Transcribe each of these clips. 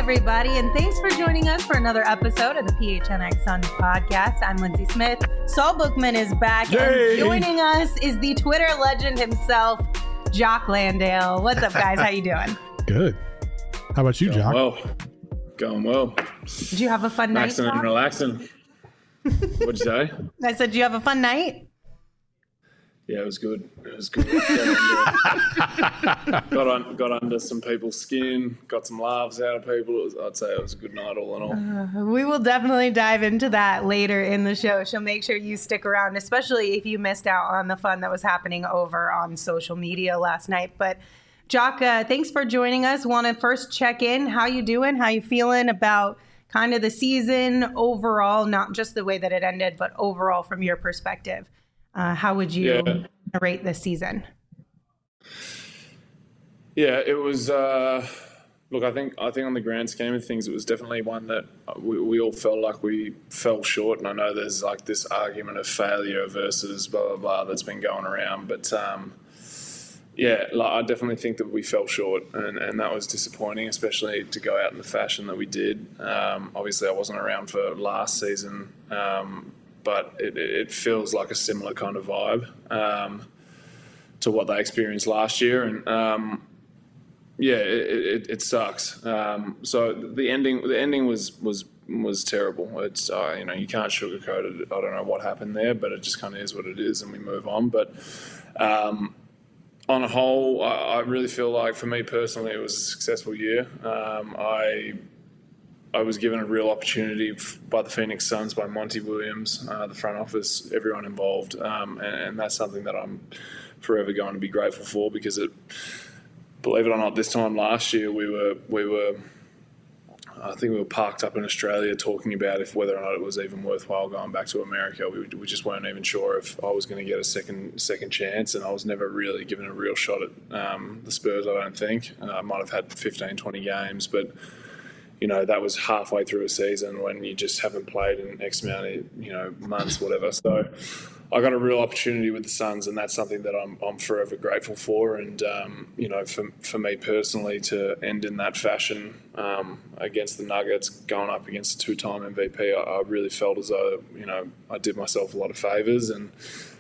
everybody, and thanks for joining us for another episode of the PHNX Suns podcast. I'm Lindsay Smith. Saul Bookman is back, and joining us is the Twitter legend himself, Jock Landale. What's up, guys? How you doing? Good. How about you, Jock? Going well. Did you have a fun night? Maxing and relaxing. What'd you say? I said, did you have a fun night? Yeah, it was good. Got under some people's skin, got some laughs out of people. I'd say it was a good night all in all. We will definitely dive into that later in the show. So make sure you stick around, especially if you missed out on the fun that was happening over on social media last night. But Jock, thanks for joining us. Want to first check in. How you doing? How you feeling about kind of the season overall, not just the way that it ended, but overall from your perspective? How would you rate this season? Yeah, it was. Look, I think on the grand scheme of things, it was definitely one that we all felt like we fell short. And I know there's like this argument of failure versus blah blah blah that's been going around, but I definitely think that we fell short, and that was disappointing, especially to go out in the fashion that we did. Obviously, I wasn't around for last season. But it feels like a similar kind of vibe to what they experienced last year, and it sucks. So the ending was terrible. It's you can't sugarcoat it. I don't know what happened there, but it just kind of is what it is, and we move on. But on a whole, I really feel like for me personally, it was a successful year. I was given a real opportunity by the Phoenix Suns, by Monty Williams, the front office, everyone involved, and that's something that I'm forever going to be grateful for, because believe it or not, this time last year we were I think we were parked up in Australia talking about whether or not it was even worthwhile going back to America. We just weren't even sure if I was going to get a second chance, and I was never really given a real shot at the Spurs, I don't think. I might have had 15, 20 games, but that was halfway through a season when you just haven't played in X amount of, months, whatever. So I got a real opportunity with the Suns, and that's something that I'm forever grateful for. And, for me personally to end in that fashion against the Nuggets, going up against a two-time MVP, I really felt as though, I did myself a lot of favours, and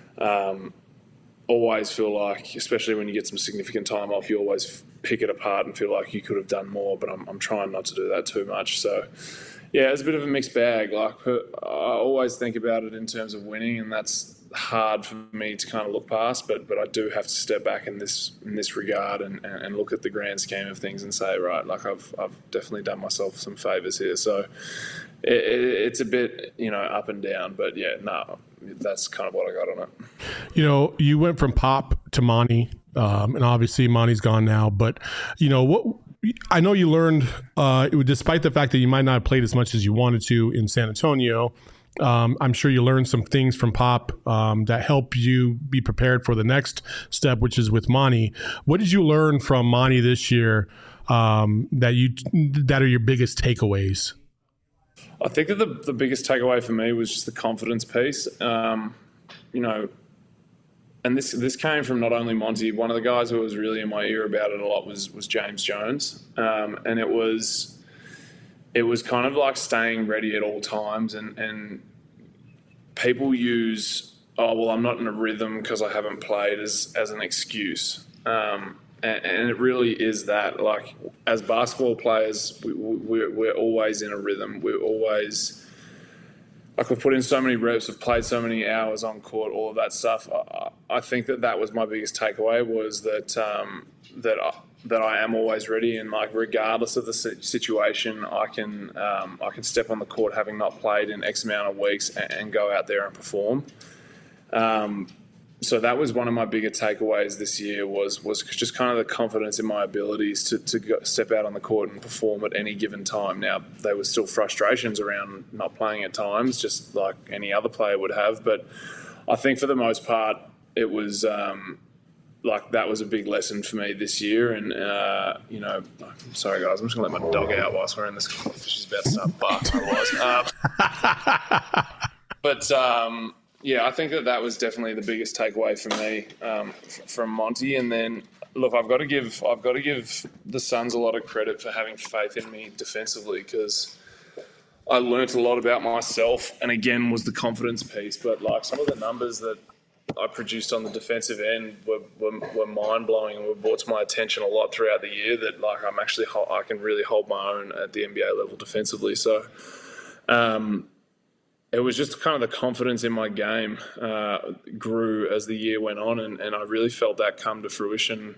always feel like, especially when you get some significant time off, you always pick it apart and feel like you could have done more, but I'm trying not to do that too much. So, yeah, it's a bit of a mixed bag. Like, I always think about it in terms of winning, and that's hard for me to kind of look past, but I do have to step back in this regard and look at the grand scheme of things and say, right, like I've definitely done myself some favours here. So it's a bit, up and down, but that's kind of what I got on it. You went from Pop to Monty, and obviously Monty's gone now, but what I know you learned, despite the fact that you might not have played as much as you wanted to in San Antonio, I'm sure you learned some things from Pop that help you be prepared for the next step, which is with Monty. What did you learn from Monty this year that are your biggest takeaways? I think that the biggest takeaway for me was just the confidence piece. And this came from not only Monty. One of the guys who was really in my ear about it a lot was James Jones, and it was kind of like staying ready at all times. And people use, I'm not in a rhythm because I haven't played as an excuse. And it really is that. Like, as basketball players, we're always in a rhythm. We're always, like, we've put in so many reps, we've played so many hours on court, all of that stuff. I think that was my biggest takeaway, was that that I am always ready, and like regardless of the situation, I can step on the court having not played in X amount of weeks and go out there and perform. So that was one of my bigger takeaways this year, was just kind of the confidence in my abilities to step out on the court and perform at any given time. Now, there were still frustrations around not playing at times, just like any other player would have. But I think for the most part, it was that was a big lesson for me this year. And, sorry, guys, I'm just going to let my dog out whilst we're in this call. She's about to start barking otherwise. Yeah, I think that was definitely the biggest takeaway for me from Monty. And then, look, I've got to give the Suns a lot of credit for having faith in me defensively, because I learnt a lot about myself, and again was the confidence piece. But like some of the numbers that I produced on the defensive end were mind blowing and were brought to my attention a lot throughout the year. That like I can really hold my own at the NBA level defensively. So. It was just kind of the confidence in my game grew as the year went on, and I really felt that come to fruition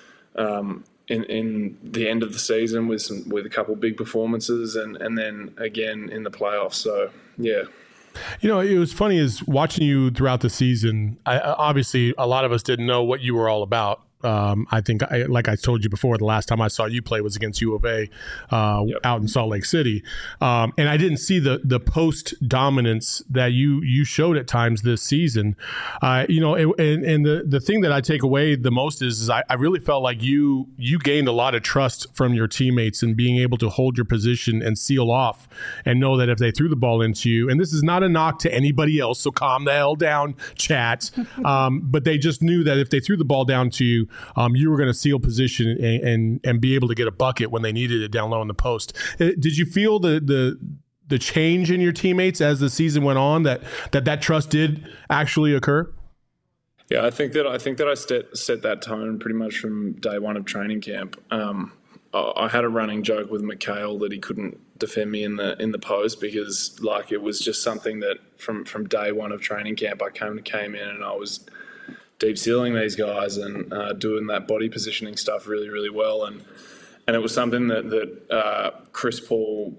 in the end of the season with a couple of big performances, and then again in the playoffs. So yeah. You know, it was funny is watching you throughout the season. Obviously, a lot of us didn't know what you were all about. I think, like I told you before, the last time I saw you play was against U of A out in Salt Lake City. And I didn't see the post dominance that you showed at times this season. You know, and the thing that I take away the most is I really felt like you gained a lot of trust from your teammates and being able to hold your position and seal off and know that if they threw the ball into you, and this is not a knock to anybody else, so calm the hell down, chat. But they just knew that if they threw the ball down to you, you were going to seal position and be able to get a bucket when they needed it down low in the post. Did you feel the change in your teammates as the season went on, that trust did actually occur? Yeah, I think that I set that tone pretty much from day one of training camp. I had a running joke with Mikhail that he couldn't defend me in the post, because like it was just something that from day one of training camp I came in and I was deep sealing these guys and doing that body positioning stuff really, really well. And it was something that Chris Paul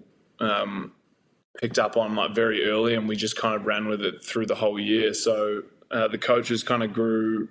picked up on like very early, and we just kind of ran with it through the whole year. So the coaches kind of grew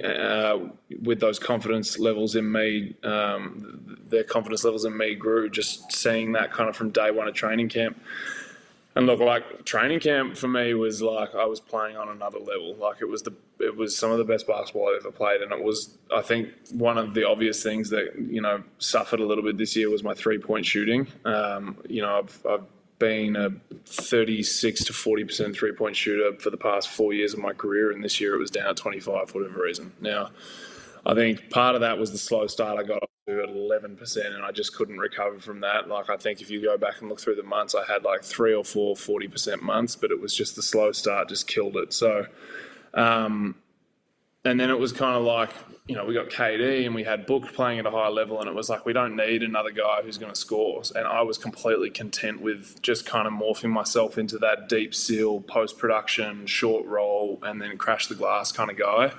with those confidence levels in me. Their confidence levels in me grew just seeing that kind of from day one of training camp. And look, like training camp for me was like I was playing on another level. Like it was some of the best basketball I've ever played, and it was, I think, one of the obvious things that, you know, suffered a little bit this year was my 3-point shooting. You know, I've been a 36 to 40% 3-point shooter for the past 4 years of my career, and this year it was down at 25 for whatever reason. Now, I think part of that was the slow start I got off to at 11%, and I just couldn't recover from that. Like, I think if you go back and look through the months, I had like 3 or 4 40% months, but it was just the slow start just killed it. So, and then it was kind of like, you know, we got KD and we had Book playing at a high level, and it was like, we don't need another guy who's going to score. And I was completely content with just kind of morphing myself into that deep seal, post-production, short roll, and then crash the glass kind of guy.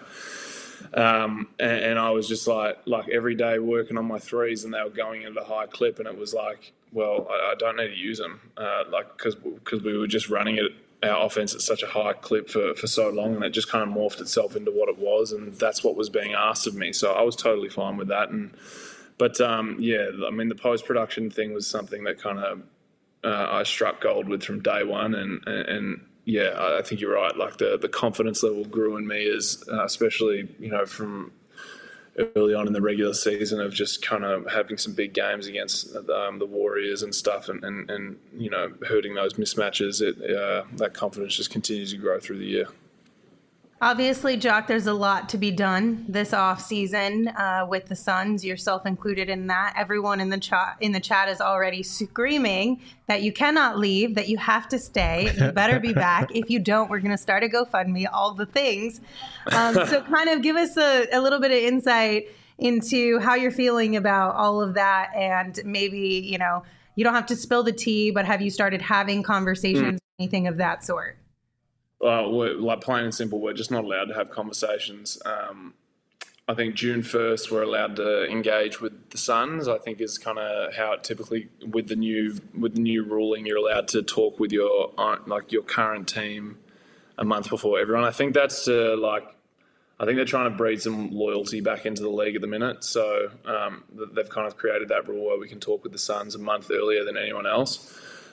And I was just like every day working on my threes, and they were going at a high clip, and it was like, well, I don't need to use them, because we were just running it, our offense at such a high clip for so long, and it just kind of morphed itself into what it was, and that's what was being asked of me. So I was totally fine with that. But yeah, I mean, the post-production thing was something that kind of I struck gold with from day one, and yeah, I think you're right. Like the confidence level grew in me as, especially, you know, from early on in the regular season of just kind of having some big games against the Warriors and stuff, and you know, hurting those mismatches. That confidence just continues to grow through the year. Obviously, Jock, there's a lot to be done this off season with the Suns, yourself included in that. Everyone in the chat is already screaming that you cannot leave, that you have to stay. You better be back. If you don't, we're going to start a GoFundMe, all the things. So kind of give us a little bit of insight into how you're feeling about all of that, and maybe, you know, you don't have to spill the tea, but have you started having conversations, anything of that sort? We're, like, plain and simple, we're just not allowed to have conversations. I think June 1st we're allowed to engage with the Suns. I think is kind of how it typically, with the new ruling, you're allowed to talk with your current team a month before everyone. I think that's I think they're trying to breed some loyalty back into the league at the minute. So they've kind of created that rule where we can talk with the Suns a month earlier than anyone else.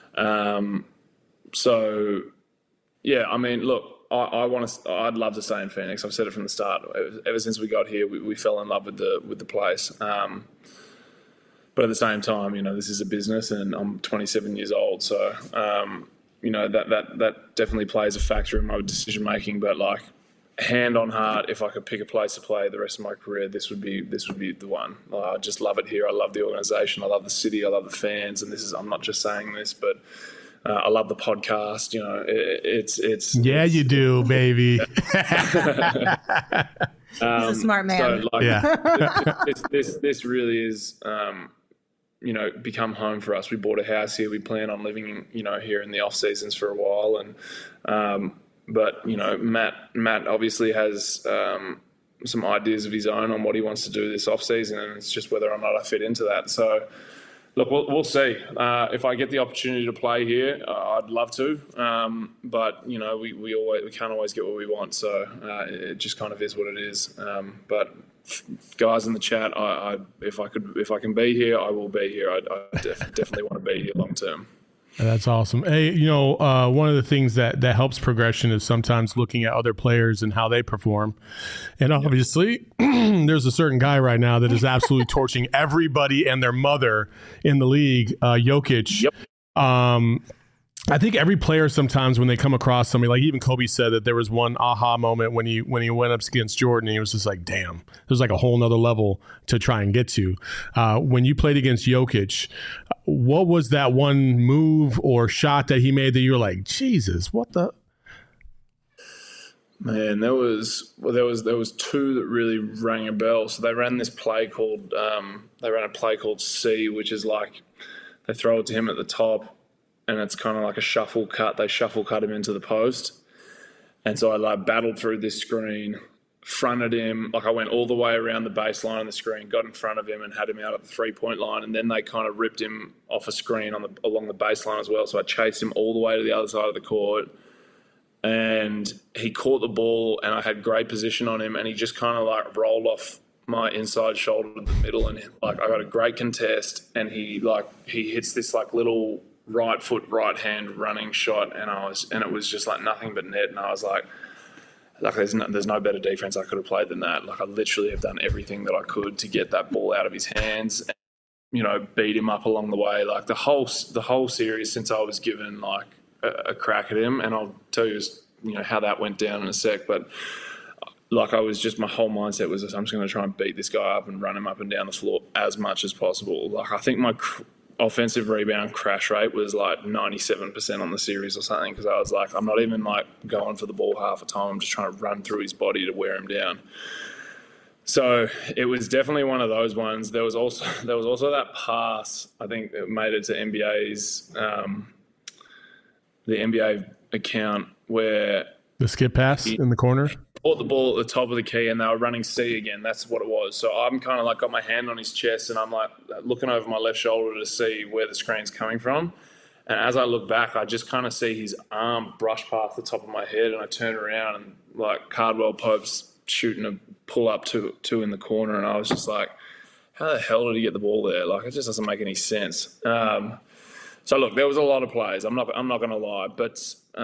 So yeah, I mean, look, I'd love to stay in Phoenix. I've said it from the start. Ever since we got here, we fell in love with the place. But at the same time, you know, this is a business, and I'm 27 years old, so you know, that definitely plays a factor in my decision making. But like, hand on heart, if I could pick a place to play the rest of my career, this would be the one. I just love it here. I love the organisation. I love the city. I love the fans. And I'm not just saying this, but I love the podcast. You know, it's you do, baby. He's a smart man. So, this really is, you know, become home for us. We bought a house here. We plan on living, you know, here in the off seasons for a while. And, but, you know, Matt obviously has some ideas of his own on what he wants to do this off season, and it's just whether or not I fit into that. So, look, we'll see. If I get the opportunity to play here, I'd love to. But you know, we can't always get what we want. So it just kind of is what it is. But guys in the chat, if I can be here, I will be here. I definitely want to be here long term. That's awesome. Hey, you know, one of the things that helps progression is sometimes looking at other players and how they perform. And obviously, there's a certain guy right now that is absolutely torching everybody and their mother in the league, Jokic. Yep. I think every player sometimes when they come across somebody, like even Kobe said that there was one aha moment when he went up against Jordan, and he was just like, damn, there's like a whole nother level to try and get to. When you played against Jokic, what was that one move or shot that he made that you were like, Jesus, what the? Man, there was two that really rang a bell. So they ran this play called C, which is like they throw it to him at the top, and it's kind of like a shuffle cut. They shuffle cut him into the post. And so I like battled through this screen, fronted him. Like I went all the way around the baseline of the screen, got in front of him and had him out at the 3-point line. And then they kind of ripped him off a screen along the baseline as well. So I chased him all the way to the other side of the court. And he caught the ball and I had great position on him. And he just kind of like rolled off my inside shoulder to the middle. And like I got a great contest. And he hits this like little right foot, right hand running shot, and it was just like nothing but net. And I was like there's no better defense I could have played than that. Like I literally have done everything that I could to get that ball out of his hands, and, you know, beat him up along the way. Like the whole series since I was given like a crack at him, and I'll tell you, you know, how that went down in a sec. But like my whole mindset was I'm just going to try and beat this guy up and run him up and down the floor as much as possible. Like I think my offensive rebound crash rate was like 97% on the series or something, because I was like, I'm not even like going for the ball half the time. I'm just trying to run through his body to wear him down. So it was definitely one of those ones. There was also that pass. I think it made it to NBA's the NBA account where the skip pass in the corner. Caught the ball at the top of the key and they were running C again. That's what it was. So I'm kind of like got my hand on his chest and I'm like looking over my left shoulder to see where the screen's coming from. And as I look back, I just kind of see his arm brush past the top of my head, and I turn around and like Cardwell Pope's shooting a pull up two in the corner, and I was just like, how the hell did he get the ball there? Like it just doesn't make any sense. So look, there was a lot of plays. I'm not going to lie, but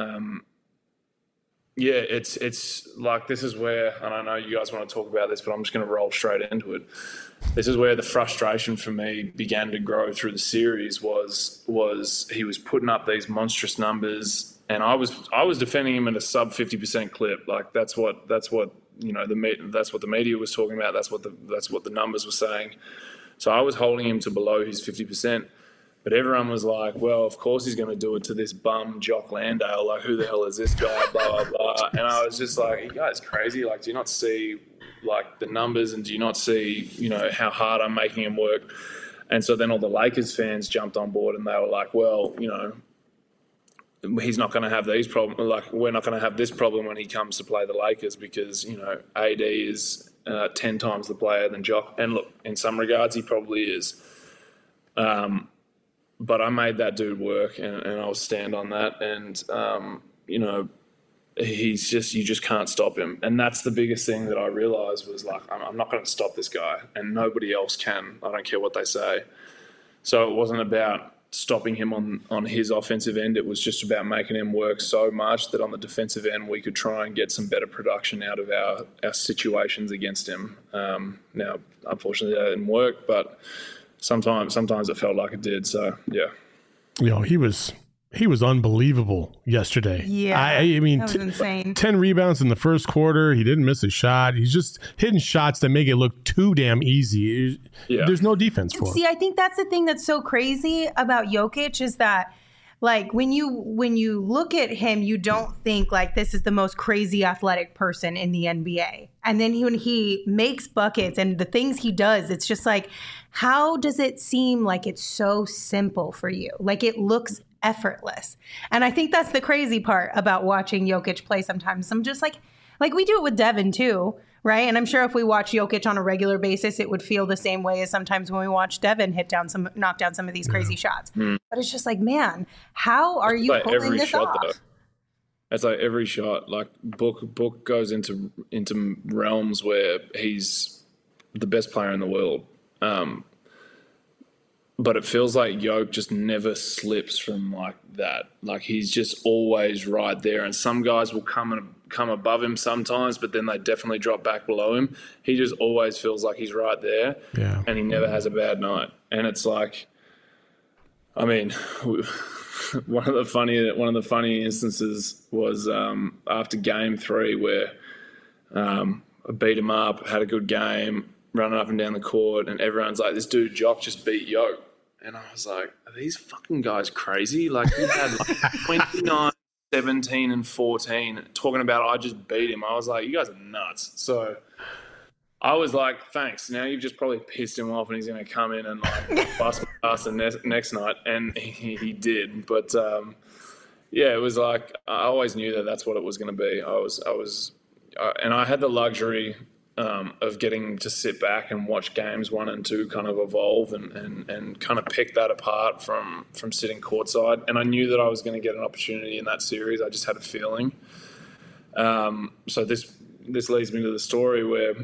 yeah, it's like this is where, and I know you guys want to talk about this, but I'm just going to roll straight into it. This is where the frustration for me began to grow through the series. Was he was putting up these monstrous numbers, and I was defending him at a sub 50% clip. Like that's what you know that's what the media was talking about. That's what the numbers were saying. So I was holding him to below his 50%. But everyone was like, well, of course he's going to do it to this bum Jock Landale. Like, who the hell is this guy? Blah, blah, blah. And I was just like, you guys crazy? Like, do you not see, like, the numbers, and do you not see, you know, how hard I'm making him work? And so then all the Lakers fans jumped on board and they were like, well, you know, he's not going to have these problems. Like, we're not going to have this problem when he comes to play the Lakers because, you know, AD is 10 times the player than Jock. And look, in some regards, he probably is. But I made that dude work, and I'll stand on that. And, you know, you just can't stop him. And that's the biggest thing that I realized was like, I'm not going to stop this guy, and nobody else can. I don't care what they say. So it wasn't about stopping him on his offensive end. It was just about making him work so much that on the defensive end, we could try and get some better production out of our situations against him. Now, unfortunately, that didn't work, but Sometimes it felt like it did. So, yeah. You know, he was He was unbelievable yesterday. Yeah, I mean, that was insane. 10 rebounds in the first quarter. He didn't miss a shot. He's just hitting shots that make it look too damn easy. Yeah. There's no defense for him. See, I think that's the thing that's so crazy about Jokic is that, like, when you look at him, you don't think like this is the most crazy athletic person in the NBA. And then when he makes buckets and the things he does, it's just like, how does it seem like it's so simple for you? Like it looks effortless. And I think that's the crazy part about watching Jokic play sometimes. I'm just like we do it with Devin too, right? And I'm sure if we watch Jokic on a regular basis, it would feel the same way as sometimes when we watch Devin knock down some of these crazy shots. But it's just like, man, how are you like pulling every this shot, off? though. It's like every shot. Like Book goes into realms where he's the best player in the world. But it feels like Jokic just never slips from like that. Like he's just always right there. And some guys will come above him sometimes, but then they definitely drop back below him. He just always feels like he's right there. Yeah. And he never has a bad night. And it's like, I mean, one of the funny instances was after game 3 where I beat him up, had a good game, running up and down the court, and everyone's like, this dude Jock just beat Jokic. And I was like, are these fucking guys crazy? Like, he had like 29, 17, and 14 talking about I just beat him. I was like, you guys are nuts. So I was like, thanks. Now you've just probably pissed him off and he's going to come in and like bust my ass the next night. And he did. But yeah, it was like, I always knew that that's what it was going to be. And I had the luxury of getting to sit back and watch games 1 and 2 kind of evolve and kind of pick that apart from sitting courtside. And I knew that I was going to get an opportunity in that series. I just had a feeling. So this leads me to the story where,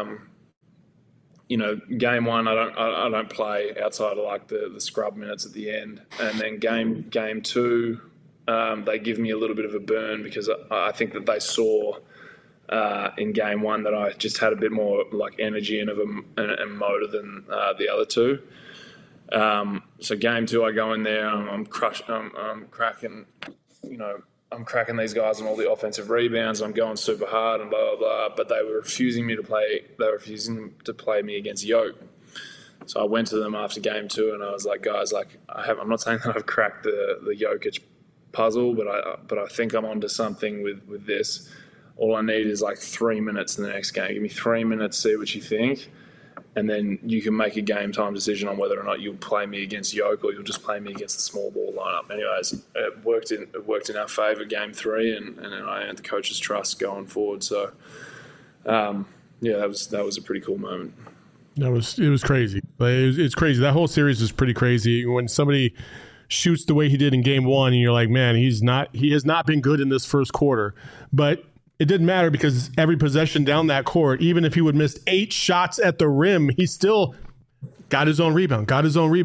game 1, I don't play outside of like the scrub minutes at the end. And then game 2, they give me a little bit of a burn because I think that they saw in game 1 that I just had a bit more like energy and motor than the other 2. So game 2, I go in there, I'm cracking these guys on all the offensive rebounds. I'm going super hard and blah, blah, blah. But they were refusing to play me against Jokic. So I went to them after game 2 and I was like, guys, like I'm not saying that I've cracked the Jokic puzzle, but I think I'm onto something with this. All I need is like 3 minutes in the next game. Give me 3 minutes, see what you think, and then you can make a game time decision on whether or not you'll play me against Jokic or you'll just play me against the small ball lineup. Anyways, it worked in our favour game 3, and then I earned the coach's trust going forward. So, that was a pretty cool moment. It was crazy. It's crazy. That whole series is pretty crazy. When somebody shoots the way he did in game 1, and you're like, man, he has not been good in this first quarter, but it didn't matter because every possession down that court, even if he would miss 8 shots at the rim, he still got his own rebound. The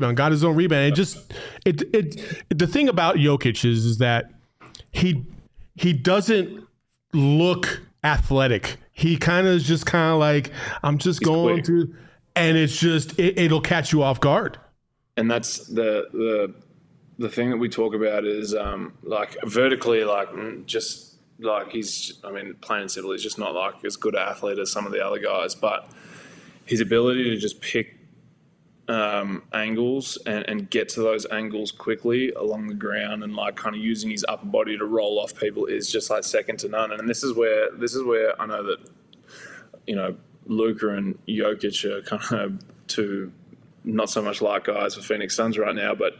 thing about Jokic is that he doesn't look athletic. He kind of is just kind of like, I'm just going through, and it's just it'll catch you off guard. And that's the thing that we talk about is like vertically, like just. Like plain and simple, he's just not like as good an athlete as some of the other guys. But his ability to just pick angles and get to those angles quickly along the ground and like kind of using his upper body to roll off people is just like second to none. And this is where I know that Luka and Jokic are kind of two not so much like guys for Phoenix Suns right now, but.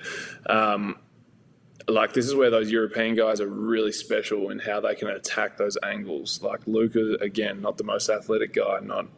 Like, this is where those European guys are really special in how they can attack those angles. Like, Luka, again, not the most athletic guy, not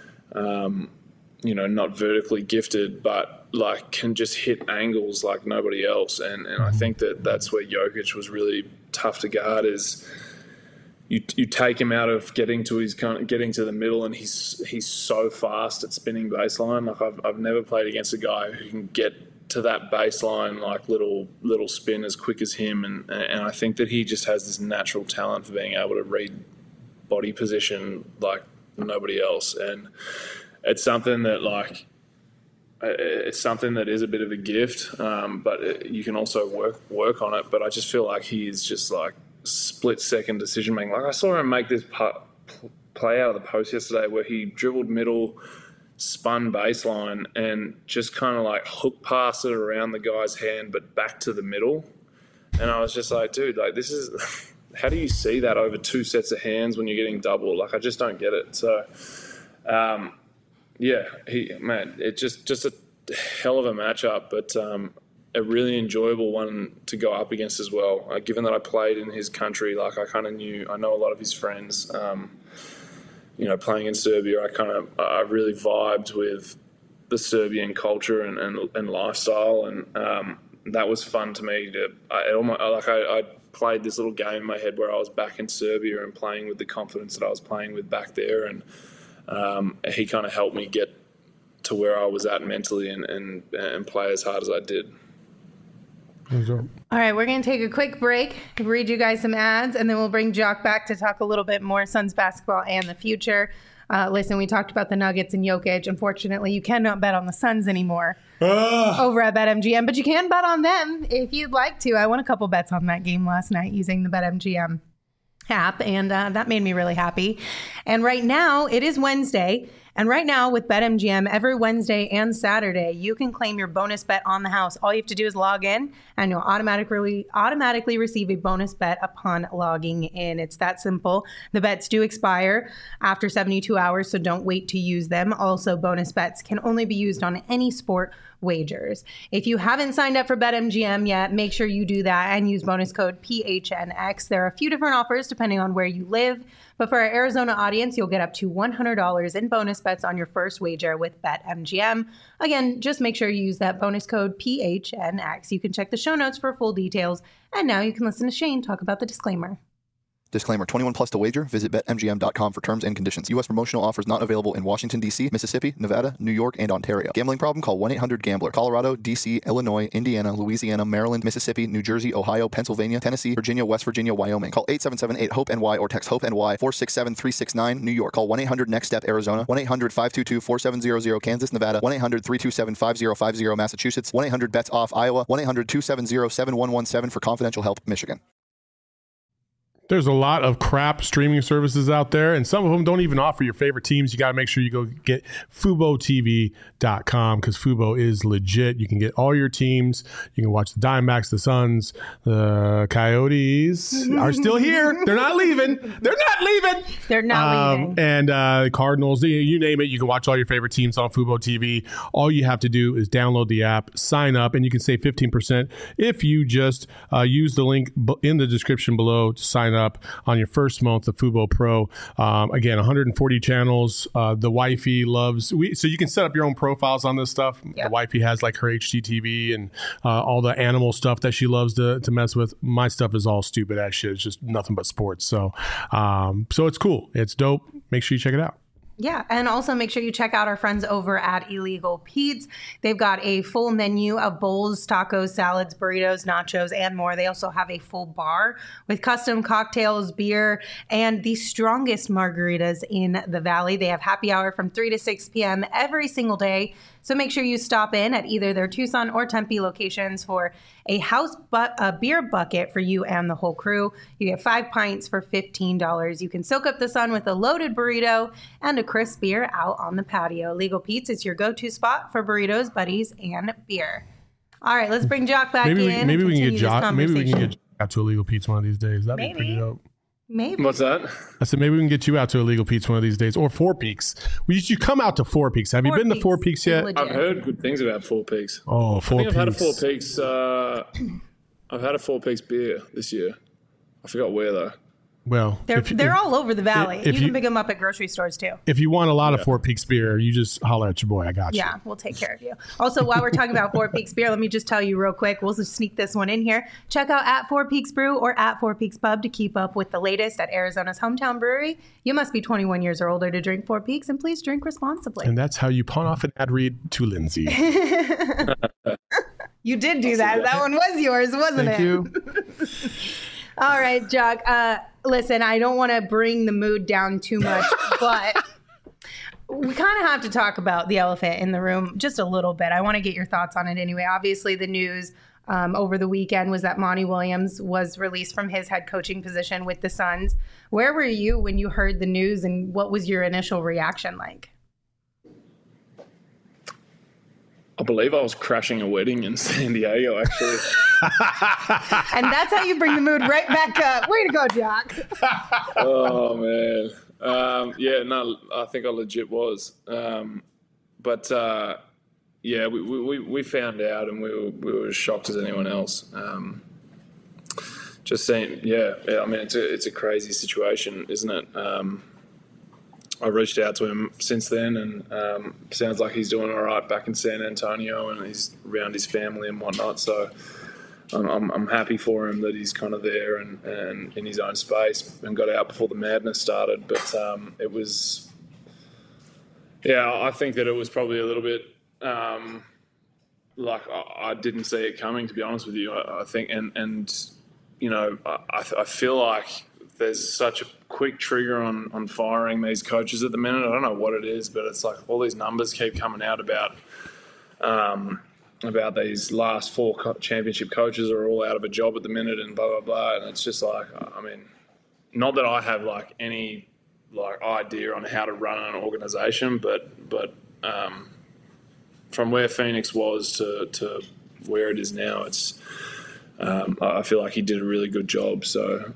vertically gifted, but, like, can just hit angles like nobody else. And I think that's where Jokic was really tough to guard is you take him out of getting to the middle, and he's so fast at spinning baseline. Like, I've never played against a guy who can get to that baseline like little spin as quick as him, and I think that he just has this natural talent for being able to read body position like nobody else, and it's something that like it's something that is a bit of a gift, but you can also work on it. But I just feel like he is just like split-second decision-making. Like I saw him make this play out of the post yesterday where he dribbled middle, spun baseline, and just kind of like hook passed it around the guy's hand but back to the middle. And I was just like, dude, like this is – how do you see that over two sets of hands when you're getting double? Like I just don't get it. So, it's just a hell of a matchup, but a really enjoyable one to go up against as well. Given that I played in his country, like I know a lot of his friends. Playing in Serbia, I really vibed with the Serbian culture and lifestyle, and that was fun to me. I played this little game in my head where I was back in Serbia and playing with the confidence that I was playing with back there, and he kind of helped me get to where I was at mentally and play as hard as I did. All right, we're going to take a quick break, read you guys some ads, and then we'll bring Jock back to talk a little bit more Suns basketball and the future. Listen, we talked about the Nuggets and Jokic. Unfortunately, you cannot bet on the Suns anymore over at BetMGM, but you can bet on them if you'd like to. I won a couple bets on that game last night using the BetMGM app, and that made me really happy. And right now, it is Wednesday. And right now with BetMGM, every Wednesday and Saturday, you can claim your bonus bet on the house. All you have to do is log in, and you'll automatically receive a bonus bet upon logging in. It's that simple. The bets do expire after 72 hours, so don't wait to use them. Also, bonus bets can only be used on any sport wagers. If you haven't signed up for BetMGM yet, make sure you do that and use bonus code PHNX. There are a few different offers depending on where you live, but for our Arizona audience, you'll get up to $100 in bonus bets on your first wager with BetMGM. Again, just make sure you use that bonus code PHNX. You can check the show notes for full details. And now you can listen to Shane talk about the disclaimer. Disclaimer, 21 plus to wager. Visit BetMGM.com for terms and conditions. U.S. promotional offers not available in Washington, D.C., Mississippi, Nevada, New York, and Ontario. Gambling problem? Call 1-800-GAMBLER. Colorado, D.C., Illinois, Indiana, Louisiana, Maryland, Mississippi, New Jersey, Ohio, Pennsylvania, Tennessee, Virginia, West Virginia, Wyoming. Call 877-8-HOPE-NY or text HOPE-NY 467-369, New York. Call 1-800-NEXT-STEP, Arizona. 1-800-522-4700, Kansas, Nevada. 1-800-327-5050, Massachusetts. 1-800-BETS-OFF, Iowa. 1-800-270-7117 for confidential help, Michigan. There's a lot of crap streaming services out there, and some of them don't even offer your favorite teams. You got to make sure you go get FuboTV.com because Fubo is legit. You can get all your teams. You can watch the Diamondbacks, the Suns, the Coyotes are still here. They're not leaving. They're not leaving. They're not leaving. And the Cardinals, you name it. You can watch all your favorite teams on Fubo TV. All you have to do is download the app, sign up, and you can save 15% if you just use the link in the description below to sign up on your first month of Fubo Pro. Again, 140 channels. The wifey loves, so you can set up your own profiles on this stuff. Yep. The wifey has like her HGTV and all the animal stuff that she loves to mess with. My stuff is all stupid ass shit. It's just nothing but sports. So it's cool. It's dope. Make sure you check it out. Yeah, and also make sure you check out our friends over at Illegal Pete's. They've got a full menu of bowls, tacos, salads, burritos, nachos, and more. They also have a full bar with custom cocktails, beer, and the strongest margaritas in the Valley. They have happy hour from 3 to 6 p.m. every single day. So make sure you stop in at either their Tucson or Tempe locations for a beer bucket for you and the whole crew. You get 5 pints for $15. You can soak up the sun with a loaded burrito and a crisp beer out on the patio. Legal Pete's is your go-to spot for burritos, buddies, and beer. All right, let's bring Jock back in. Maybe we can get Jock out to Illegal Pete's one of these days. That'd be pretty dope. Maybe. What's that? I said maybe we can get you out to Illegal Pete's one of these days, or Four Peaks. You should come out to Four Peaks. Have you been to Four Peaks yet? I've heard good things about Four Peaks. Oh, Four Peaks. I've had a Four Peaks. I've had a Four Peaks beer this year. I forgot where though. Well, they're all over the Valley. You can pick them up at grocery stores too. If you want a lot of Four Peaks beer, you just holler at your boy. I got you. Yeah, we'll take care of you. Also, while we're talking about Four Peaks beer, let me just tell you real quick. We'll just sneak this one in here. Check out at Four Peaks Brew or at Four Peaks Pub to keep up with the latest at Arizona's hometown brewery. You must be 21 years or older to drink Four Peaks, and please drink responsibly. And that's how you pawn off an ad read to Lindsay. You did do that. That one was yours, wasn't it? Thank you. All right, Jock. Listen, I don't want to bring the mood down too much, but we kind of have to talk about the elephant in the room just a little bit. I want to get your thoughts on it anyway. Obviously, the news over the weekend was that Monty Williams was released from his head coaching position with the Suns. Where were you when you heard the news, and what was your initial reaction like? I believe I was crashing a wedding in San Diego, actually. And that's how you bring the mood right back up. Way to go, Jock. Oh, man. Yeah, no, I think I legit was. But we found out, and we were as shocked as anyone else. Just saying, I mean, it's a crazy situation, isn't it? I reached out to him since then, and sounds like he's doing all right back in San Antonio, and he's around his family and whatnot. So I'm happy for him that he's kind of there and in his own space, and got out before the madness started. But it was, I think that it was probably a little bit like I didn't see it coming, to be honest with you. I think, and you know, I feel like there's such a quick trigger on firing these coaches at the minute. I don't know what it is, but it's like all these numbers keep coming out about these last 4 championship coaches are all out of a job at the minute and blah, blah, blah. And it's just like, I mean, not that I have like any like idea on how to run an organization, but from where Phoenix was to where it is now, it's I feel like he did a really good job. So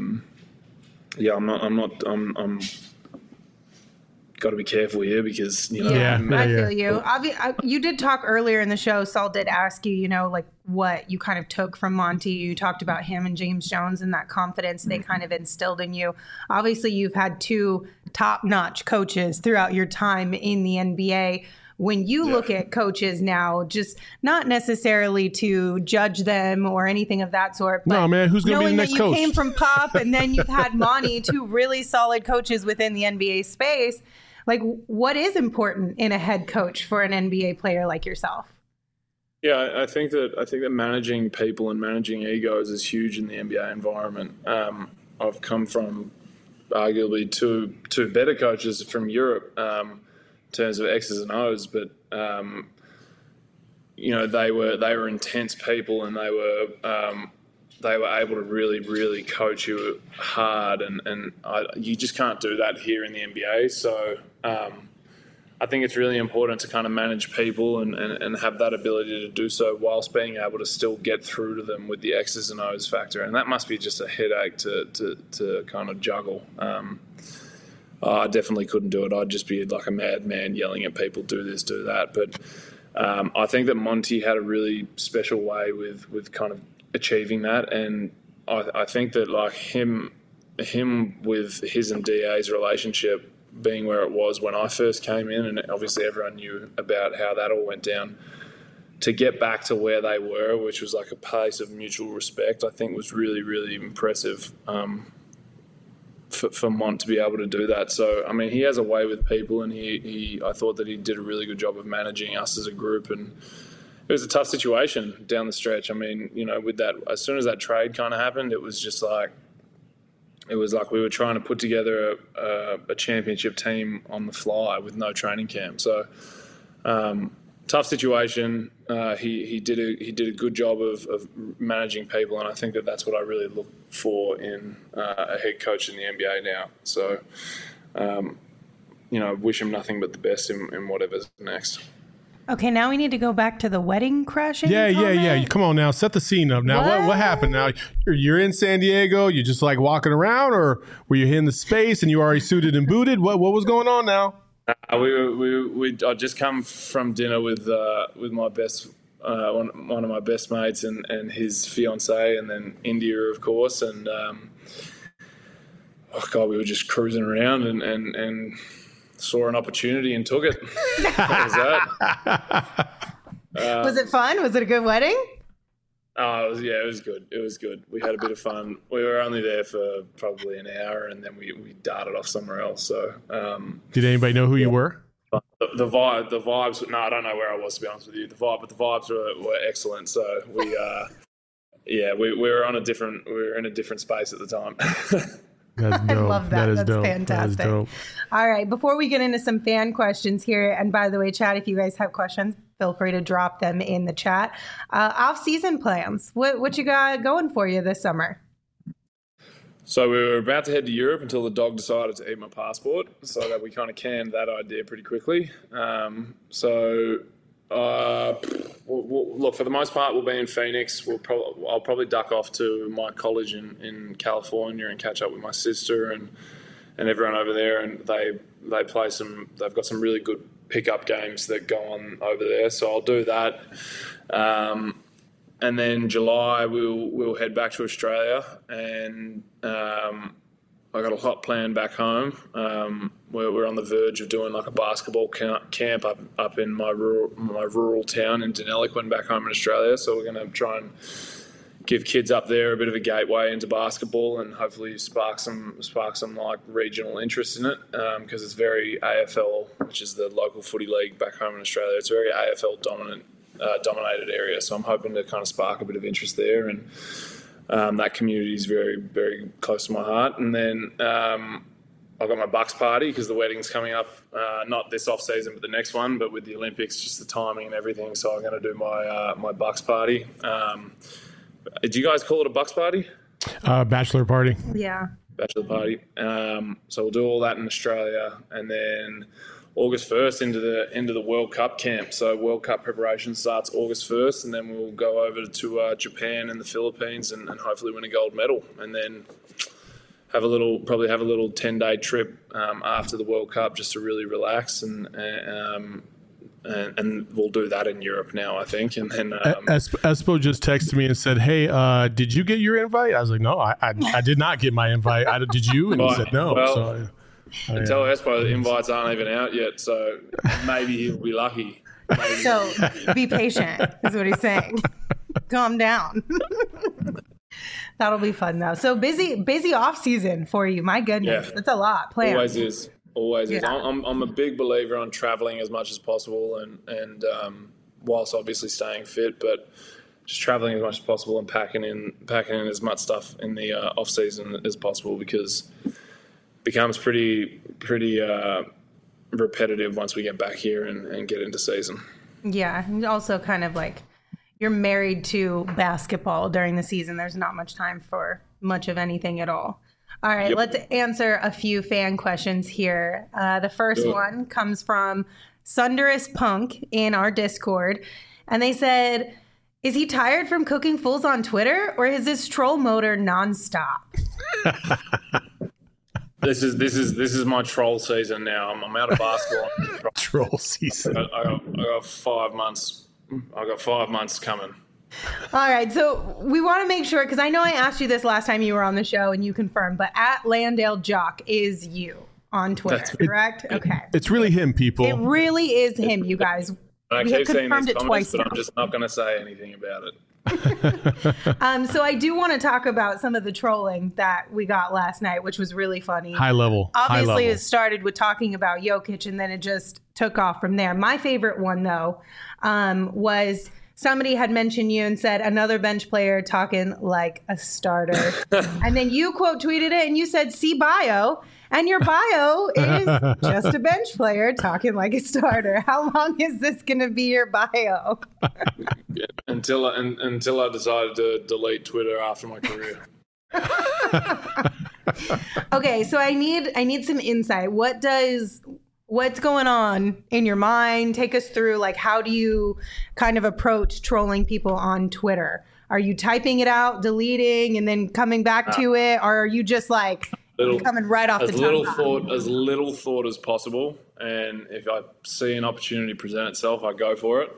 I'm got to be careful here because, you know. I feel you. You did talk earlier in the show. Saul did ask you, you know, like what you kind of took from Monty. You talked about him and James Jones and that confidence they kind of instilled in you. Obviously, you've had 2 top-notch coaches throughout your time in the NBA. When you look at coaches now, just not necessarily to judge them or anything of that sort, but no, man, who's going to be the next coach? Knowing that you came from Pop and then you've had Monty, 2 really solid coaches within the NBA space, like what is important in a head coach for an NBA player like yourself? Yeah, I think that managing people and managing egos is huge in the NBA environment. I've come from arguably two better coaches from Europe. In terms of X's and O's, but you know, they were intense people, and they were able to really, really coach you hard, and you just can't do that here in the NBA. So I think it's really important to kind of manage people and have that ability to do so whilst being able to still get through to them with the X's and O's factor, and that must be just a headache to kind of juggle. I definitely couldn't do it. I'd just be like a madman yelling at people, do this, do that. But I think that Monty had a really special way with kind of achieving that. And I think that like him with his and DA's relationship being where it was when I first came in, and obviously everyone knew about how that all went down, to get back to where they were, which was like a place of mutual respect, I think was really, really impressive. For Mont to be able to do that. So, I mean, he has a way with people, and I thought that he did a really good job of managing us as a group, and it was a tough situation down the stretch. I mean, you know, with that, as soon as that trade kind of happened, it was like we were trying to put together a championship team on the fly with no training camp. So, tough situation. He did a good job of managing people, and I think that that's what I really look for in a head coach in the NBA now. So, you know, wish him nothing but the best in whatever's next. Okay, now we need to go back to the wedding crashing. Yeah. Come on now, set the scene up. Now, what happened? Now, you're in San Diego. You're just like walking around, or were you in the space and you already suited and booted? What was going on now? I just come from dinner with my best one of my best mates and his fiance, and then India, of course, and we were just cruising around and saw an opportunity and took it. What was that? Was it fun? Was it a good wedding? It was good. It was good. We had a bit of fun. We were only there for probably an hour, and then we darted off somewhere else. So, did anybody know who you were? The vibes. No, I don't know where I was, to be honest with you. The vibes were excellent. So we were in a different space at the time. That's dope. I love that. That's dope. fantastic. That is dope. All right. Before we get into some fan questions here, and by the way, chat, if you guys have questions, feel free to drop them in the chat. Off-season plans. What you got going for you this summer? So we were about to head to Europe until the dog decided to eat my passport, so that we kind of canned that idea pretty quickly. Look, for the most part, we'll be in Phoenix. I'll probably duck off to my college in California and catch up with my sister and everyone over there. And they play some. They've got some really good pickup games that go on over there. So I'll do that. And then July we'll head back to Australia, and I got a lot planned back home. We're on the verge of doing like a basketball camp up in my rural town in Deniliquin back home in Australia. So we're going to try and give kids up there a bit of a gateway into basketball, and hopefully spark some like regional interest in it, because it's very AFL, which is the local footy league back home in Australia. It's very AFL dominated area, so I'm hoping to kind of spark a bit of interest there, and that community is very, very close to my heart. And then I've got my Bucks party because the wedding's coming up, not this off season but the next one, but with the Olympics, just the timing and everything. So I'm going to do my Bucks party. Do you guys call it a Bucks party? Bachelor party. Yeah. Bachelor party. So we'll do all that in Australia, and then August 1st into the World Cup camp. So World Cup preparation starts August 1st, and then we'll go over to Japan and the Philippines and hopefully win a gold medal, and then probably have a little 10-day trip after the World Cup just to really relax, and we'll do that in Europe now, I think. And then Espo just texted me and said, "Hey, did you get your invite?" I was like, "No, I did not get my invite. Did you?" And he said, "No." Well, tell Espo the invites aren't even out yet, so maybe he'll be lucky. Maybe. So be patient, is what he's saying. Calm down. That'll be fun though. So busy off season for you. My goodness, that's a lot planned. Always is. Yeah. I'm a big believer on traveling as much as possible, and whilst obviously staying fit, but just traveling as much as possible and packing in as much stuff in the off season as possible, because becomes pretty repetitive once we get back here and get into season. Yeah, and also kind of like you're married to basketball during the season. There's not much time for much of anything at all. All right, Yep. Let's answer a few fan questions here. The first one comes from Sunderous Punk in our Discord, and they said, "Is he tired from cooking fools on Twitter, or is this troll motor nonstop?" This is my troll season now. I'm out of basketball. Troll season. I got 5 months. I got 5 months coming. All right, so we want to make sure, because I know I asked you this last time you were on the show and you confirmed, but at Landale Jock is you on Twitter, correct? Okay. It's really him, people. It really is him, you guys. I We have keep seeing confirmed these it comments, twice but now. I'm just not going to say anything about it. So I do want to talk about some of the trolling that we got last night, which was really funny. High level. Obviously, it started with talking about Jokic, and then it just took off from there. My favorite one, though, was somebody had mentioned you and said another bench player talking like a starter. And then you quote tweeted it and you said, "See bio." And your bio is just a bench player talking like a starter. How long is this going to be your bio? Until I decided to delete Twitter after my career. Okay, so I need some insight. What's going on in your mind? Take us through, like, how do you kind of approach trolling people on Twitter? Are you typing it out, deleting, and then coming back to it? Or are you just like coming right off the top? As little thought as possible. And if I see an opportunity present itself, I go for it.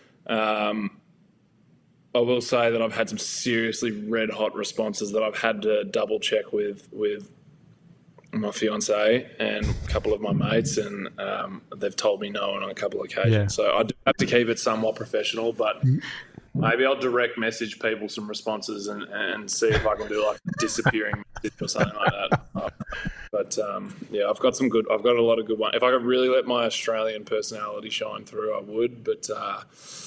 I will say that I've had some seriously red hot responses that I've had to double check with my fiance and a couple of my mates, and they've told me no on a couple of occasions. Yeah. So I do have to keep it somewhat professional, but maybe I'll direct message people some responses and see if I can do like a disappearing message or something like that. But yeah, I've got a lot of good ones. If I could really let my Australian personality shine through, I would. But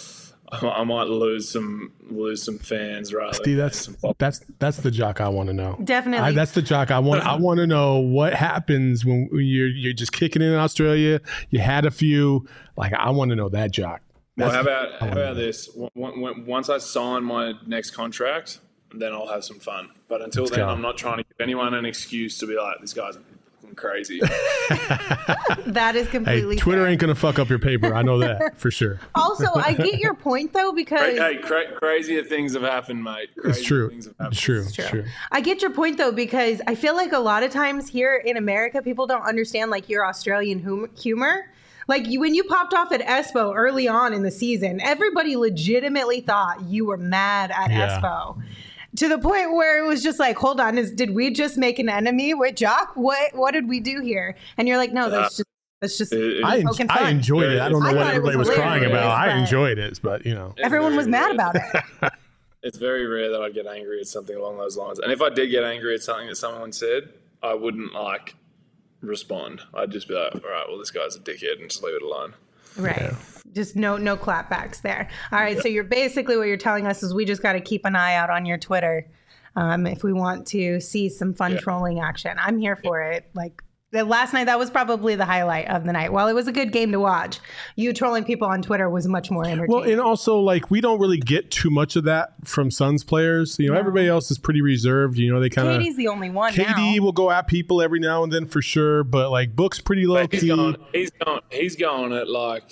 I might lose some fans rather. See, that's the Jock I want to know. Definitely. That's the Jock I want. I want to know what happens when you're just kicking in Australia. You had a few. Like, I want to know that Jock. Well, how about this? Once I sign my next contract, then I'll have some fun. But until then, I'm not trying to give anyone an excuse to be like, this guy's crazy. That is completely Twitter fair. ain't gonna fuck up your paper. I know that for sure. Also, I get your point though, because crazier things have happened, mate. It's true. It's true. I get your point though, because I feel like a lot of times here in America, people don't understand like your Australian humor. Like when you popped off at Espo early on in the season, everybody legitimately thought you were mad at Espo. To the point where it was just like, hold on, did we just make an enemy with Jock? What did we do here? And you're like, no, that's just I enjoyed it. I don't know what everybody was crying about. I enjoyed it, but everyone was mad about it. It's very rare that I'd get angry at something along those lines. And if I did get angry at something that someone said, I wouldn't respond. I'd just be like, all right, well, this guy's a dickhead, and just leave it alone. Right. Yeah. Just no clapbacks there. All right. Yeah. So you're basically, what you're telling us is we just got to keep an eye out on your Twitter if we want to see some fun trolling action. I'm here for it. Like last night, that was probably the highlight of the night. While it was a good game to watch, you trolling people on Twitter was much more entertaining. Well, and also we don't really get too much of that from Suns players. Everybody else is pretty reserved. They kind of. KD's the only one. KD will go at people every now and then for sure, but Book's pretty low key. He's going at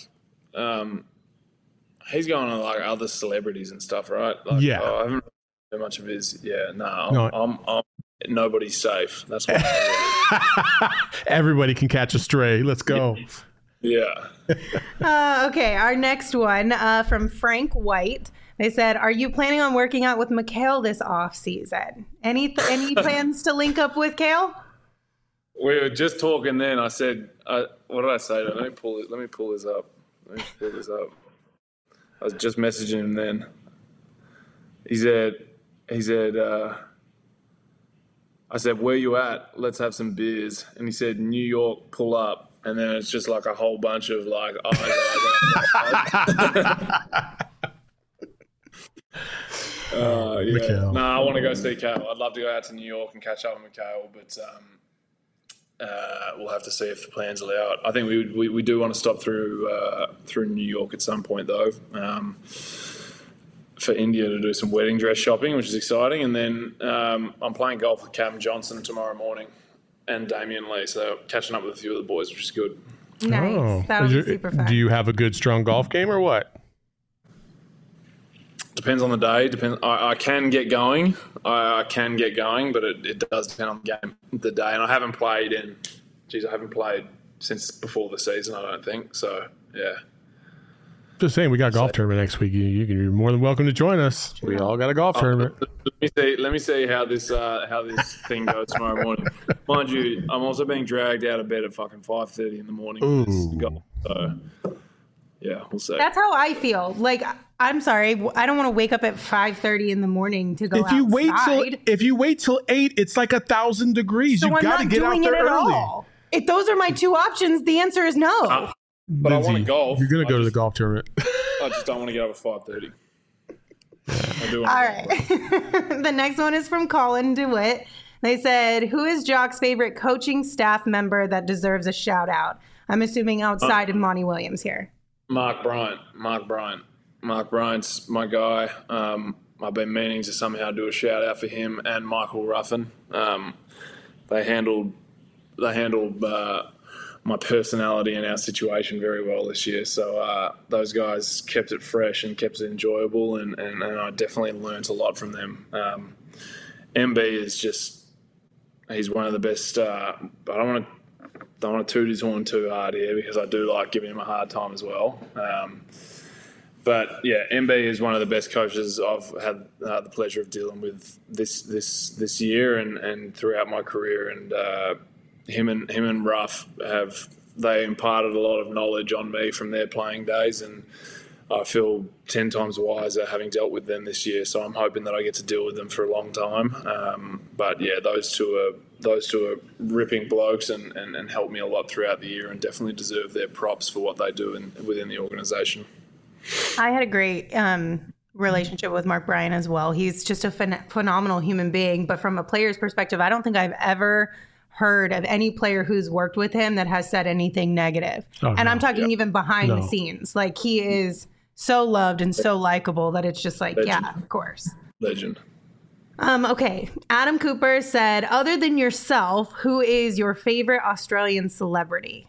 he's going on other celebrities and stuff, right? I haven't heard much of his. Yeah, I'm nobody's safe. That's what. Everybody can catch a stray. Let's go. Yeah. Okay, our next one from Frank White. They said, "Are you planning on working out with Mikhail this off season? Any plans to link up with Kale?" We were just talking then. I said, "What did I say? Let me pull this up. I was just messaging him then. He said, I said, where you at? Let's have some beers. And he said, New York, pull up. And then it's just like a whole bunch of yeah. No, I want to go see Kale. I'd love to go out to New York and catch up with Mikhail, but we'll have to see if the plans allow it. I think we do want to stop through New York at some point, though, for India to do some wedding dress shopping, which is exciting. And then I'm playing golf with Cam Johnson tomorrow morning and Damian Lee, so catching up with a few of the boys, which is good. Nice. That would be super fun. Do you have a good, strong golf game or what? Depends on the day. I can get going. I can get going, but it does depend on the game, the day. And I haven't played since before the season, I don't think. So, yeah. Just saying, we got a golf tournament next week. You're more than welcome to join us. We all got a golf tournament. Let me see how this thing goes tomorrow morning. Mind you, I'm also being dragged out of bed at fucking 5:30 in the morning. So, yeah, we'll see. That's how I feel. I'm sorry, I don't want to wake up at 5:30 in the morning to go outside. If you wait till 8, it's 1,000 degrees. So You've got to get out there early. All. If those are my two options, the answer is no. But Lindsay, I want to golf. You're going to go to the golf tournament. I just don't want to get up at 5:30. I do. All right. The next one is from Colin DeWitt. They said, who is Jock's favorite coaching staff member that deserves a shout out? I'm assuming outside of Monty Williams here. Mark Bryant. Mark Bryant's my guy. I've been meaning to somehow do a shout out for him and Michael Ruffin. They handled my personality and our situation very well this year. So those guys kept it fresh and kept it enjoyable, and I definitely learnt a lot from them. MB is just, he's one of the best. I don't want to toot his horn too hard here because I do like giving him a hard time as well. But yeah, MB is one of the best coaches I've had the pleasure of dealing with this year and throughout my career. And him and Ruff they imparted a lot of knowledge on me from their playing days, and I feel 10 times wiser having dealt with them this year. So I'm hoping that I get to deal with them for a long time. But yeah, those two are ripping blokes and helped me a lot throughout the year, and definitely deserve their props for what they do within the organisation. I had a great relationship with Mark Bryan as well. He's just a phenomenal human being. But from a player's perspective, I don't think I've ever heard of any player who's worked with him that has said anything negative. And I'm talking even behind the scenes. Like, he is so loved and so likable that it's just like, Legend. yeah, of course. Legend. Okay. Adam Cooper said, other than yourself, who is your favorite Australian celebrity?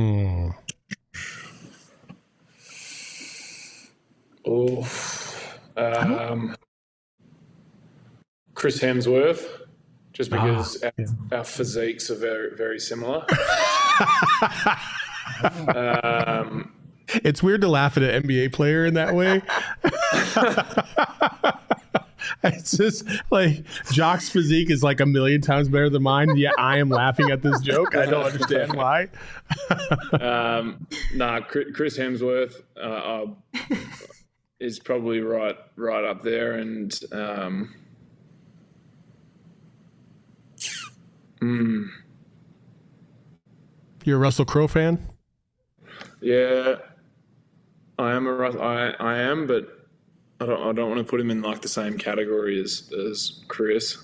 Chris Hemsworth, just because our physiques are very, very similar. It's weird to laugh at an NBA player in that way. It's just like Jock's physique is like a million times better than mine. Yet I am laughing at this joke. I don't understand why. Chris Hemsworth is probably right up there, and You're a Russell Crowe fan? yeah, I am I am, but I don't want to put him in like the same category as Chris.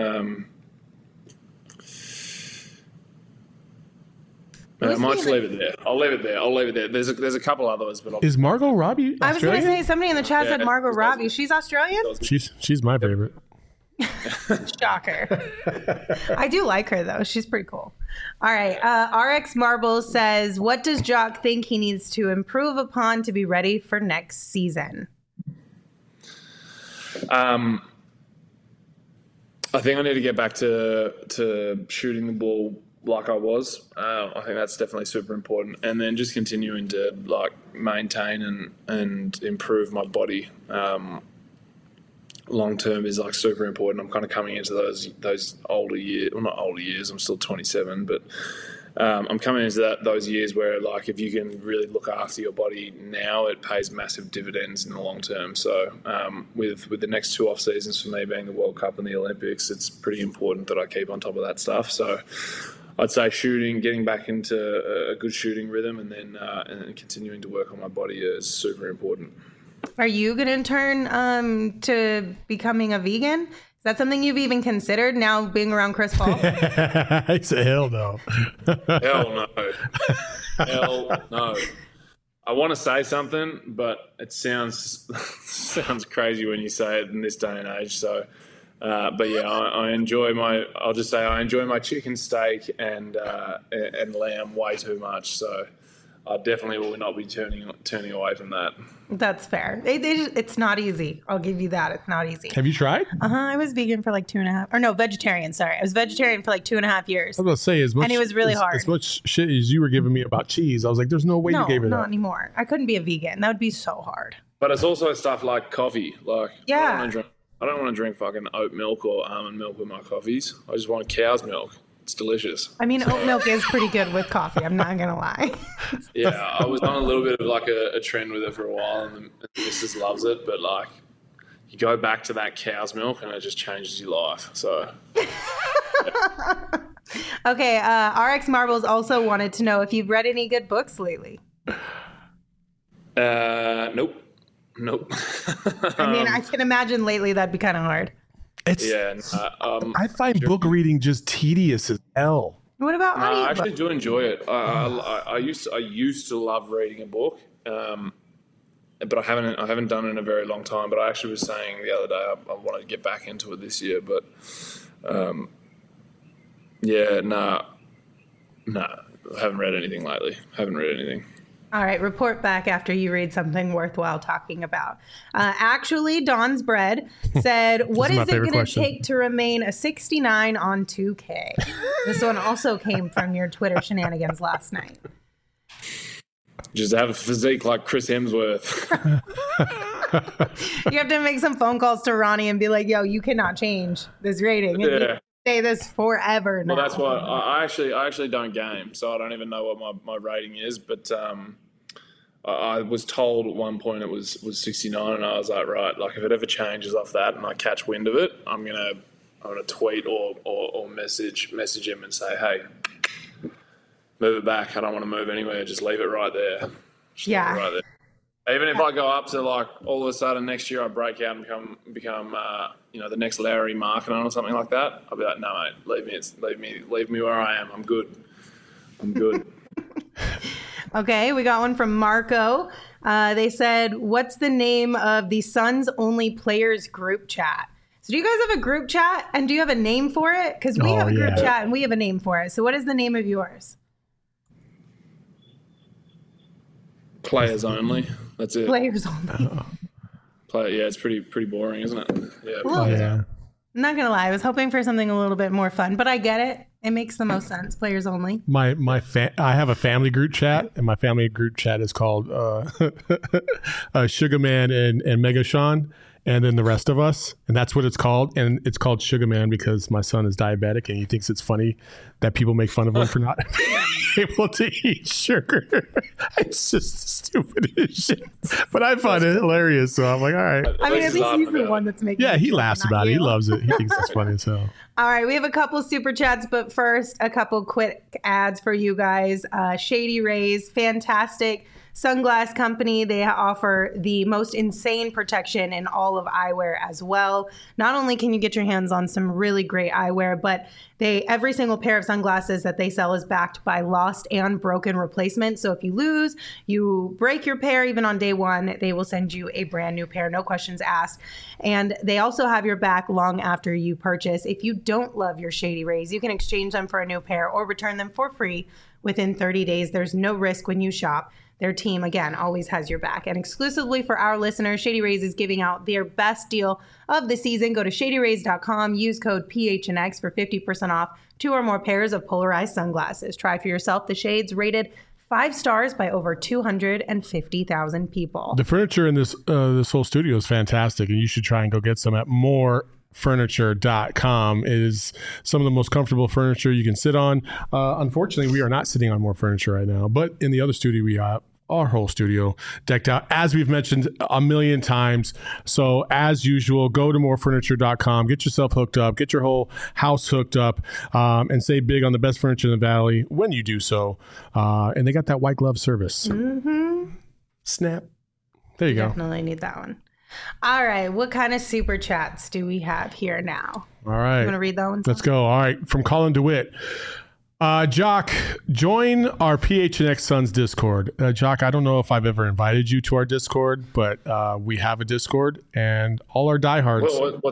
I might just leave it there. I'll leave it there. There's a couple others, but Is Margot Robbie Australian? I was going to say, somebody in the chat said Margot Robbie. She's Australian? She's my favorite. Shocker. I do like her, though. She's pretty cool. All right. RX Marbles says, what does Jock think he needs to improve upon to be ready for next season? I think I need to get back to shooting the ball like I was. I think that's definitely super important, and then just continuing to like maintain and improve my body long term is like super important. I'm kind of coming into those older years. Well, not older years. I'm still 27, but I'm coming into those years where like if you can really look after your body now, it pays massive dividends in the long term. So with the next 2 off seasons for me being the World Cup and the Olympics, it's pretty important that I keep on top of that stuff. So I'd say shooting, getting back into a good shooting rhythm, and then continuing to work on my body is super important. Are you going to turn to becoming a vegan? Is that something you've even considered now being around Chris Paul? I said, hell no. Hell no. Hell no. I want to say something, but it sounds crazy when you say it in this day and age. So, but yeah, I enjoy I'll just say I enjoy my chicken steak and lamb way too much. So I definitely will not be turning away from that. That's fair. It's not easy. I'll give you that. It's not easy. Have you tried? I was vegan for like 2.5, or no, vegetarian. Sorry, I was vegetarian for like 2.5 years. I was going to say and it was really hard. As much shit as you were giving me about cheese, I was like, "There's no way you gave it up." up." Not anymore. I couldn't be a vegan. That would be so hard. But it's also stuff like coffee. Like yeah, I don't want to drink fucking oat milk or almond milk with my coffees. I just want cow's milk. It's delicious. I mean, oat milk is pretty good with coffee. I'm not going to lie. Yeah, I was on a little bit of like a trend with it for a while, and the missus loves it. But like, you go back to that cow's milk, and it just changes your life. So. Okay, RX Marbles also wanted to know if you've read any good books lately. Nope. I mean, I can imagine lately that'd be kind of hard. I find book reading just tedious as hell. What about audio? I actually do enjoy it. I used to love reading a book, but I haven't done it in a very long time. But I actually was saying the other day I wanted to get back into it this year. But I haven't read anything lately. All right, report back after you read something worthwhile talking about. Actually, Don's Bread said, what is it going to take to remain a 69 on 2K? This one also came from your Twitter shenanigans last night. Just have a physique like Chris Hemsworth. You have to make some phone calls to Ronnie and be like, yo, you cannot change this rating. And you say this forever now. Well, that's why I actually don't game, so I don't even know what my rating is, but I was told at one point it was 69, and I was like, right, like if it ever changes off that and I catch wind of it, I'm gonna tweet or message him and say, hey, move it back. I don't want to move anywhere. Just leave it right there. Yeah. Right there. Even if I go up to like all of a sudden next year I break out and become the next Larry Markkinen or something like that, I'll be like, no mate, leave me where I am. I'm good. Okay, we got one from Marco. They said, what's the name of the Suns only players group chat? So do you guys have a group chat and do you have a name for it? Because we have a group chat and we have a name for it. So what is the name of yours? Players only. That's it. Players only. Yeah, it's pretty boring, isn't it? Yeah. Well, Yeah. I'm not going to lie. I was hoping for something a little bit more fun, but I get it. It makes the most sense. Players only. I have a family group chat, and my family group chat is called Sugar Man and Mega Sean, and then the rest of us, and that's what it's called. And it's called Sugar Man because my son is diabetic, and he thinks it's funny that people make fun of him for not being able to eat sugar. It's just the stupidest shit, but I find it hilarious. So I'm like, all right. I mean, at least he's the one that's making. Yeah, he it, laughs not about it. you. He loves it. He thinks it's funny. So. All right, we have a couple super chats, but first, a couple quick ads for you guys. Shady Rays, fantastic sunglass company. They offer the most insane protection in all of eyewear as well. Not only can you get your hands on some really great eyewear, but every single pair of sunglasses that they sell is backed by lost and broken replacement. So if you break your pair, even on day one, they will send you a brand new pair, no questions asked. And they also have your back long after you purchase. If you don't love your Shady Rays, you can exchange them for a new pair or return them for free within 30 days. There's no risk when you shop. Their team, again, always has your back. And exclusively for our listeners, Shady Rays is giving out their best deal of the season. Go to shadyrays.com, use code PHNX for 50% off 2 or more pairs of polarized sunglasses. Try for yourself the shades rated 5 stars by over 250,000 people. The furniture in this whole studio is fantastic, and you should try and go get some at morefurniture.com. It is some of the most comfortable furniture you can sit on. Unfortunately, we are not sitting on more furniture right now, but in the other studio, we have our whole studio decked out, as we've mentioned a million times. So as usual, go to morefurniture.com, get yourself hooked up, get your whole house hooked up, and save big on the best furniture in the Valley when you do so. And they got that white glove service. Mm-hmm. Snap. There you go. Definitely need that one. All right. What kind of super chats do we have here now? All right. You want to read that one? Let's go. All right. From Colin DeWitt. Jock, join our PHNX Suns Discord. Jock, I don't know if I've ever invited you to our Discord, but we have a Discord, and all our diehards.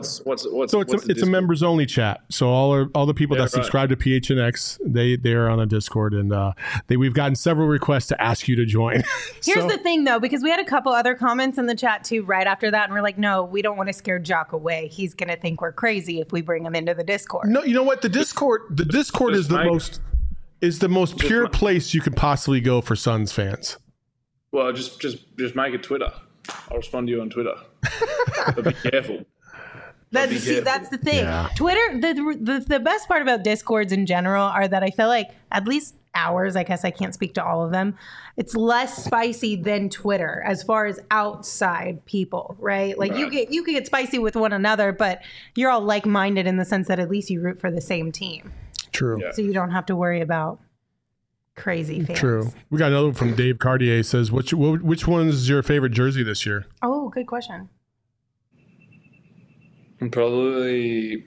It's a members only chat. So all the people that subscribe to PHNX, they're on a Discord, and we've gotten several requests to ask you to join. Here's the thing, though, because we had a couple other comments in the chat too right after that, and we're like, no, we don't want to scare Jock away. He's gonna think we're crazy if we bring him into the Discord. No, you know what? The Discord is the most pure place you could possibly go for Suns fans. Well, just make it Twitter. I'll respond to you on Twitter. But be careful. That's the thing. Yeah. Twitter, the best part about Discords in general are that I feel like, at least ours, I guess I can't speak to all of them, it's less spicy than Twitter as far as outside people, right? Like you can get spicy with one another, but you're all like-minded in the sense that at least you root for the same team. True. Yeah. So you don't have to worry about crazy fans. True. We got another one from Dave Cartier. Says, which one is your favorite jersey this year? Oh, good question. Probably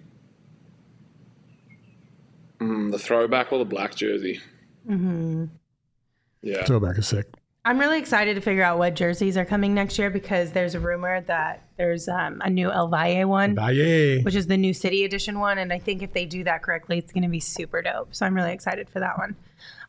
the throwback or the black jersey. Mm-hmm. Yeah. Throwback is sick. I'm really excited to figure out what jerseys are coming next year because there's a rumor that there's a new El Valle one, which is the new City Edition one. And I think if they do that correctly, it's going to be super dope. So I'm really excited for that one.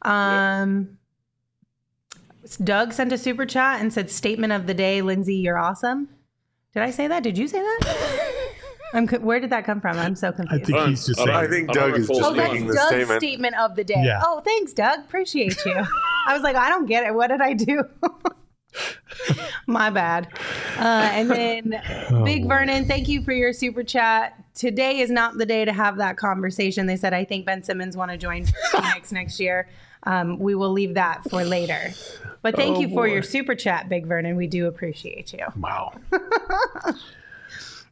Doug sent a super chat and said, statement of the day, Lindsay, you're awesome. Did I say that? Did you say that? Where did that come from? I'm so confused. I think he's just saying. I think Doug is just making the Doug's statement of the day. Yeah. Oh, thanks, Doug. Appreciate you. I was like, I don't get it. What did I do? My bad. And then Big Vernon, thank you for your super chat. Today is not the day to have that conversation. They said, I think Ben Simmons want to join Phoenix next year. We will leave that for later. But thank you for your super chat, Big Vernon. We do appreciate you. Wow.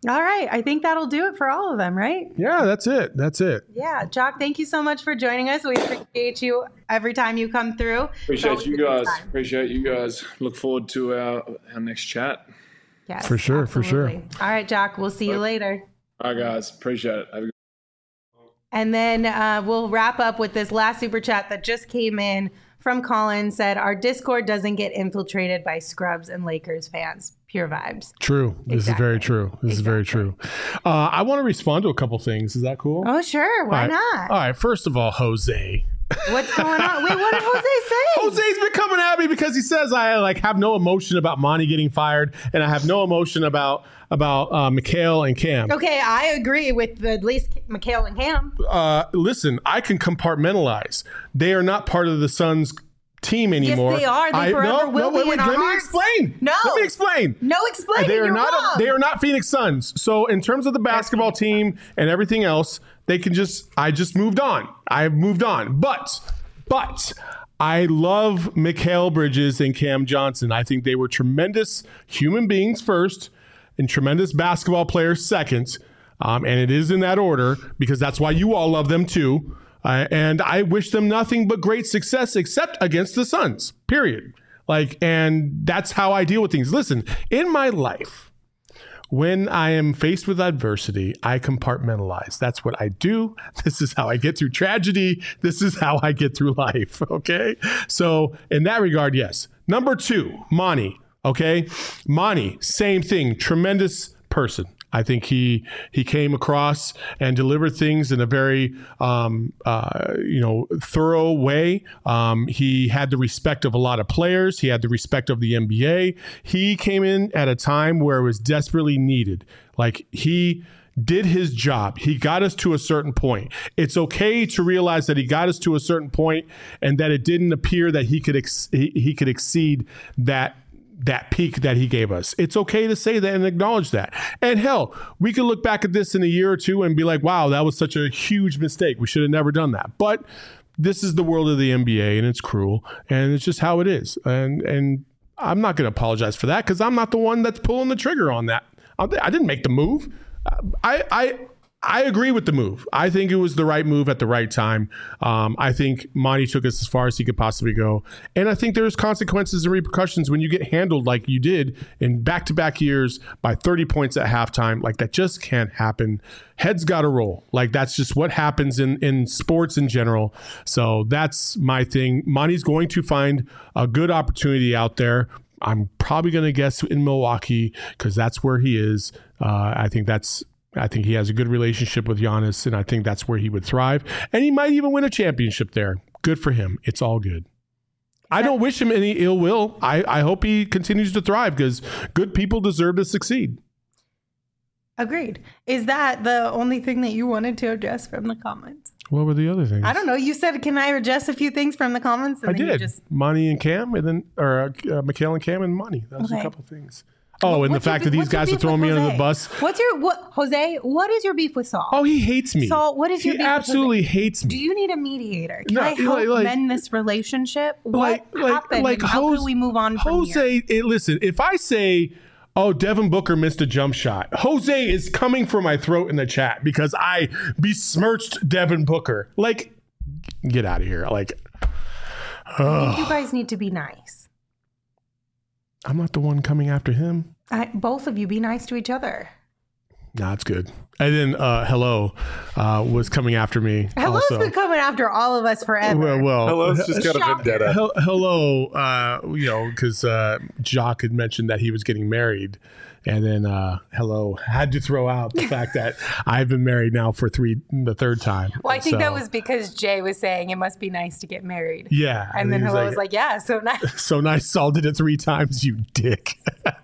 All right. I think that'll do it for all of them, right? Yeah, that's it. Yeah. Jock, thank you so much for joining us. We appreciate you every time you come through. Appreciate you guys. Look forward to our next chat. Yes, for sure. All right, Jock, we'll see you later. All right, guys. Appreciate it. Have a good And then we'll wrap up with this last super chat that just came in from Colin. Said, our Discord doesn't get infiltrated by scrubs and Lakers fans. Pure vibes. True. This is very true. This is very true. I want to respond to a couple things. Is that cool? Oh, sure. Why not? All right. First of all, Jose. What's going on? Wait, what did Jose say? Jose's been coming at me because he says I have no emotion about Monty getting fired, and I have no emotion about Mikhail and Cam. Okay, I agree with at least Mikhail and Cam. Listen, I can compartmentalize. They are not part of the Suns team anymore. Yes, they are. They forever will be in our Let hearts. me explain. No. Let me explain. No explaining. They are You're not. wrong. They are not Phoenix Suns. So in terms of the basketball team and everything else, they can just. I just moved on. I have moved on. But I love Mikal Bridges and Cam Johnson. I think they were tremendous human beings first, and tremendous basketball players second. And it is in that order because that's why you all love them too. And I wish them nothing but great success, except against the Suns, period. And that's how I deal with things. Listen, in my life, when I am faced with adversity, I compartmentalize. That's what I do. This is how I get through tragedy. This is how I get through life. Okay. So in that regard, yes. Number 2, Monty. Okay. Monty, same thing. Tremendous person. I think he came across and delivered things in a very thorough way. He had the respect of a lot of players. He had the respect of the NBA. He came in at a time where it was desperately needed. He did his job. He got us to a certain point. It's okay to realize that he got us to a certain point and that it didn't appear that he could exceed that peak that he gave us. It's okay to say that and acknowledge that. And hell, we could look back at this in a year or two and be like, wow, that was such a huge mistake. We should have never done that. But this is the world of the NBA and it's cruel and it's just how it is. And I'm not going to apologize for that because I'm not the one that's pulling the trigger on that. I didn't make the move. I agree with the move. I think it was the right move at the right time. I think Monty took us as far as he could possibly go. And I think there's consequences and repercussions when you get handled like you did in back-to-back years by 30 points at halftime. That just can't happen. Heads got to roll. That's just what happens in sports in general. So that's my thing. Monty's going to find a good opportunity out there. I'm probably going to guess in Milwaukee because that's where he is. I think he has a good relationship with Giannis, and I think that's where he would thrive. And he might even win a championship there. Good for him. It's all good. I don't wish him any ill will. I hope he continues to thrive because good people deserve to succeed. Agreed. Is that the only thing that you wanted to address from the comments? What were the other things? I don't know. You said, can I address a few things from the comments? And I did. Monty and Cam, and then Mikhail and Cam and Monty. That was a couple things. Oh, and the fact that these guys are throwing me under the bus. Jose, what is your beef with Saul? Oh, he hates me. Saul, what is your beef with Jose? He absolutely hates me. Do you need a mediator? Can I help mend this relationship? What happened? And how can we move on from here? Listen, if I say, oh, Devin Booker missed a jump shot, Jose is coming for my throat in the chat because I besmirched Devin Booker. Get out of here. I think you guys need to be nice. I'm not the one coming after him. Both of you be nice to each other. Nah, it's good. And then Hello was coming after me. Hello's been coming after all of us forever. Well, Hello's just got a vendetta. Hello, because Jock had mentioned that he was getting married. And then Hello had to throw out the fact that I've been married now for the third time. Well, I think that was because Jay was saying it must be nice to get married. Yeah. And then Hello was like, yeah, so nice. So nice. Saul did it 3 times, you dick.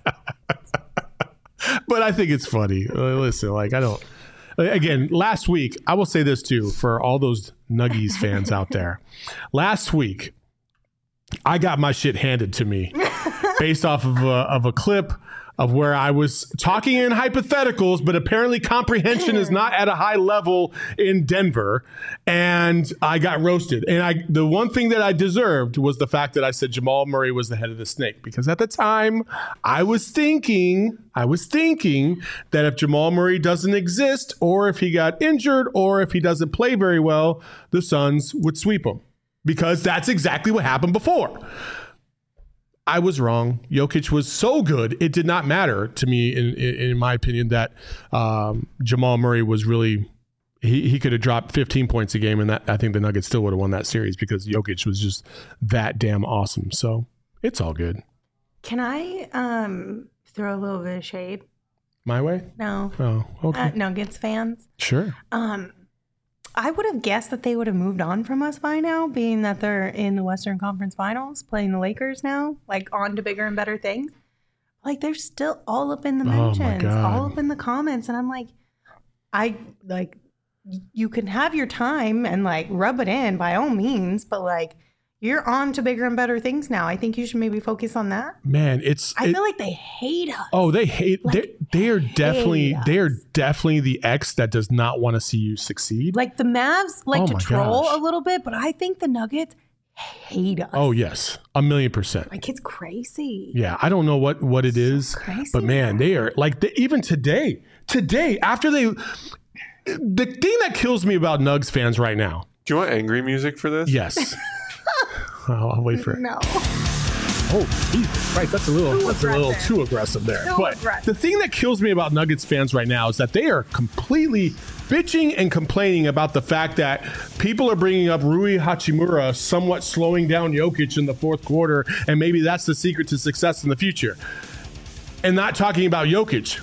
But I think it's funny. Listen, I don't. Again, last week, I will say this too for all those Nuggies fans out there. Last week, I got my shit handed to me based off of a clip of where I was talking in hypotheticals, but apparently comprehension is not at a high level in Denver, and I got roasted. And the one thing that I deserved was the fact that I said Jamal Murray was the head of the snake, because at the time I was thinking that if Jamal Murray doesn't exist, or if he got injured, or if he doesn't play very well, the Suns would sweep him, because that's exactly what happened before. I was wrong. Jokic was so good, it did not matter to me, in my opinion, that Jamal Murray was really, he could have dropped 15 points a game, and that I think the Nuggets still would have won that series, because Jokic was just that damn awesome. So it's all good. Can I throw a little bit of shade? My way? No. Oh, okay. Nuggets fans. Sure. I would have guessed that they would have moved on from us by now, being that they're in the Western Conference Finals, playing the Lakers now, like on to bigger and better things. Like they're still all up in the mentions, all up in the comments, and I'm like, you can have your time and like rub it in by all means, but like you're on to bigger and better things now. I think you should maybe focus on that. Man, I feel like they hate us. Oh, they hate. Like, they are definitely the ex that does not want to see you succeed. Like the Mavs like to troll a little bit, but I think the Nuggets hate us. Oh yes, 1,000,000%. Like it's crazy. Yeah, I don't know what it is, crazy, but man, they are like even today after the thing that kills me about Nugs fans right now. Do you want angry music for this? Yes. I'll wait for it. No. Oh, Jesus Christ, that's a little too aggressive there. The thing that kills me about Nuggets fans right now is that they are completely bitching and complaining about the fact that people are bringing up Rui Hachimura somewhat slowing down Jokic in the fourth quarter, and maybe that's the secret to success in the future, and not talking about Jokic.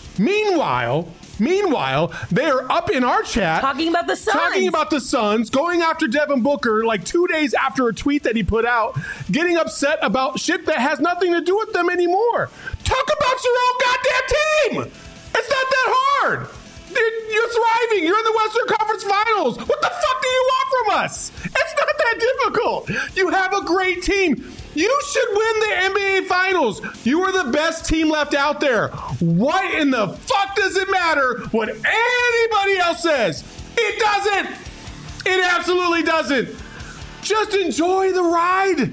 Meanwhile, they are up in our chat talking about the Suns, going after Devin Booker like 2 days after a tweet that he put out, getting upset about shit that has nothing to do with them anymore. Talk about your own goddamn team. It's not that hard. You're thriving. You're in the Western Conference Finals. What the fuck do you want from us? It's not that difficult. You have a great team. You should win the NBA Finals. You are the best team left out there. What in the fuck does it matter what anybody else says? It doesn't. It absolutely doesn't. Just enjoy the ride.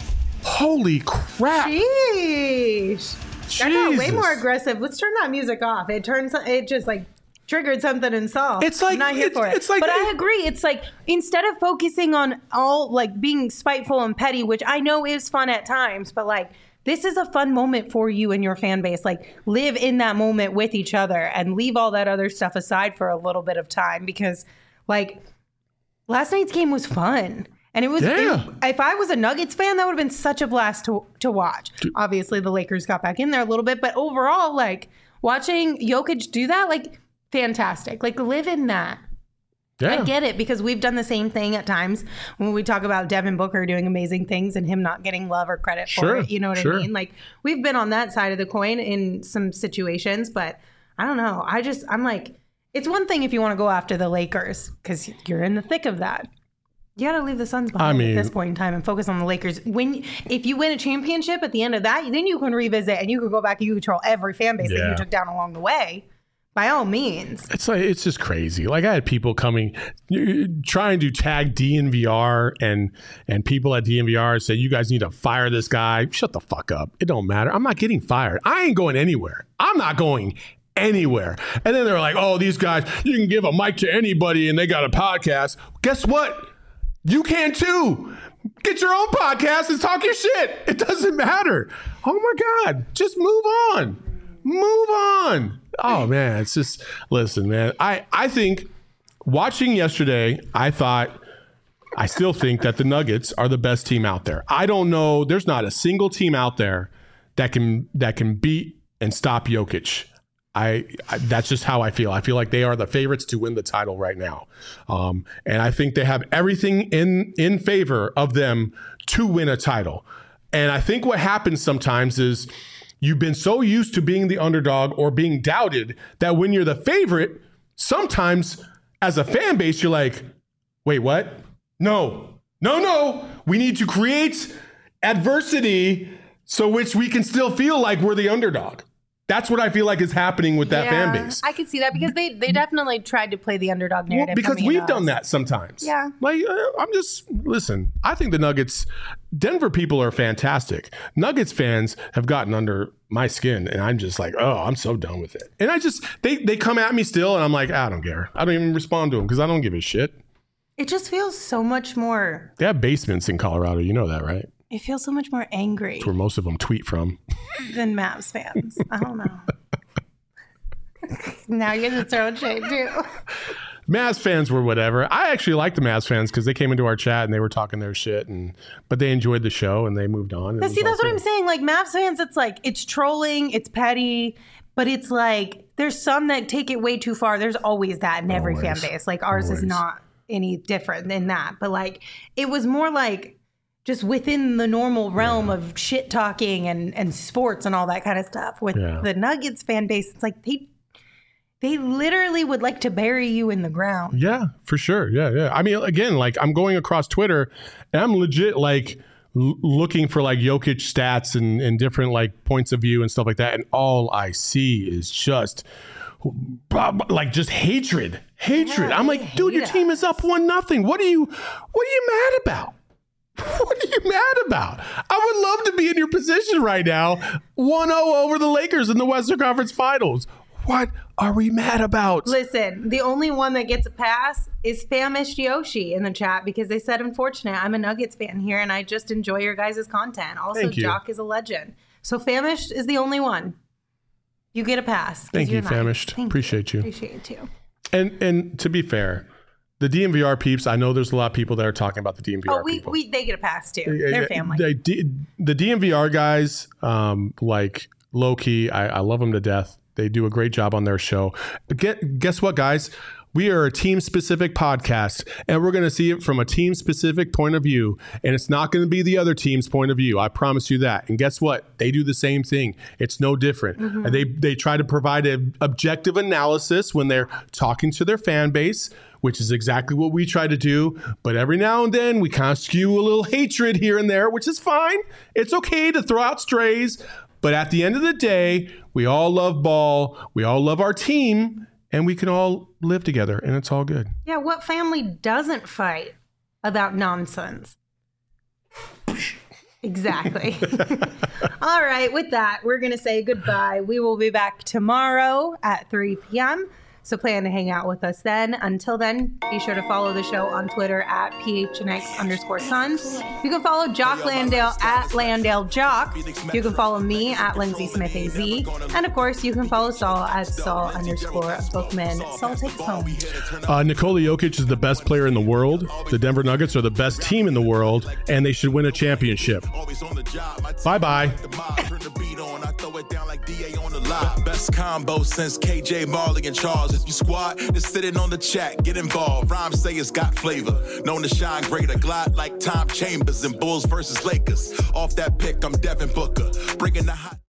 Holy crap. Sheesh. That got way more aggressive. Let's turn that music off. It just like triggered something in Saul. It's like, I'm not here for it. But I agree. It's like instead of focusing on all like being spiteful and petty, which I know is fun at times, but like this is a fun moment for you and your fan base. Like live in that moment with each other and leave all that other stuff aside for a little bit of time, because like last night's game was fun. And it was, if I was a Nuggets fan, that would have been such a blast to watch. Obviously, the Lakers got back in there a little bit, but overall, like watching Jokic do that, like fantastic. Like live in that. Yeah. I get it, because we've done the same thing at times when we talk about Devin Booker doing amazing things and him not getting love or credit for it. You know what I mean? Like we've been on that side of the coin in some situations, but I don't know. I'm like, it's one thing if you want to go after the Lakers because you're in the thick of that. You got to leave the Suns behind at this point in time and focus on the Lakers. If you win a championship at the end of that, then you can revisit and you can go back and you control every fan base that you took down along the way. By all means. It's just crazy. Like I had people coming, trying to tag DNVR and people at DNVR say, you guys need to fire this guy. Shut the fuck up. It don't matter. I'm not getting fired. I ain't going anywhere. I'm not going anywhere. And then they're like, oh, these guys, you can give a mic to anybody and they got a podcast. Guess what? You can too. Get your own podcast and talk your shit. It doesn't matter. Oh my God. Just move on. Move on. Oh man, it's just, listen, man. I think watching yesterday, I still think that the Nuggets are the best team out there. I don't know. There's not a single team out there that can beat and stop Jokic. That's just how I feel. I feel like they are the favorites to win the title right now. And I think they have everything in favor of them to win a title. And I think what happens sometimes is you've been so used to being the underdog or being doubted that when you're the favorite, sometimes as a fan base, you're like, wait, what? No. We need to create adversity so which we can still feel like we're the underdog. That's what I feel like is happening with that fan base. I could see that because they definitely tried to play the underdog narrative. Because we've done that sometimes. Yeah. Like, listen, I think the Nuggets, Denver people are fantastic. Nuggets fans have gotten under my skin, and I'm just like, oh, I'm so done with it. And they come at me still, and I'm like, I don't care. I don't even respond to them because I don't give a shit. It just feels so much more. They have basements in Colorado. You know that, right? It feels so much more angry. That's where most of them tweet from. Than Mavs fans. I don't know. Now you're going to throw shade too. Mavs fans were whatever. I actually like the Mavs fans because they came into our chat and they were talking their shit, but they enjoyed the show and they moved on. But see, that's what I'm saying. Like Mavs fans, it's like, it's trolling, it's petty, but it's like, there's some that take it way too far. There's always that in every fan base. Like ours is not any different than that. But like, it was more like, just within the normal realm of shit talking and sports and all that kind of stuff. With the Nuggets fan base, it's like they literally would like to bury you in the ground. Yeah, for sure. Yeah. I mean, again, like I'm going across Twitter and I'm legit like looking for like Jokic stats and different like points of view and stuff like that. And all I see is just like just hatred. Yeah, I'm like, dude, your team is up 1-0. What are you mad about? What are you mad about? I would love to be in your position right now. 1-0 over the Lakers in the Western Conference Finals. What are we mad about? Listen, the only one that gets a pass is Famished Yoshi in the chat because they said, unfortunate, I'm a Nuggets fan here and I just enjoy your guys' content. Also, Jock is a legend. So Famished is the only one. You get a pass. Thank you, Famished. Appreciate you. Appreciate it too. And to be fair, the DNVR peeps, I know there's a lot of people that are talking about the DNVR people. They get a pass too. They're family. The DNVR guys, like low-key, I love them to death. They do a great job on their show. Guess what, guys? We are a team-specific podcast, and we're going to see it from a team-specific point of view, and it's not going to be the other team's point of view. I promise you that. And guess what? They do the same thing. It's no different. Mm-hmm. They try to provide an objective analysis when they're talking to their fan base, which is exactly what we try to do. But every now and then, we kind of skew a little hatred here and there, which is fine. It's okay to throw out strays. But at the end of the day, we all love ball. We all love our team. And we can all live together, and it's all good. Yeah, what family doesn't fight about nonsense? Exactly. All right, with that, we're going to say goodbye. We will be back tomorrow at 3 p.m., so plan to hang out with us then. Until then, be sure to follow the show on Twitter at PHNX_Suns. You can follow Jock Landale at Landale Jock. You can follow me at Lindsay Smith AZ. And of course, you can follow Saul at Saul_Bookman. Saul, take us home. Nikola Jokic is the best player in the world. The Denver Nuggets are the best team in the world, and they should win a championship. Bye-bye. Best combo since KJ, Marley, and Charles. If you squad, just sit in on the chat, get involved. Rhymes say it's got flavor. Known to shine greater, glide like Tom Chambers in Bulls versus Lakers. Off that pick, I'm Devin Booker. Bringing the hot.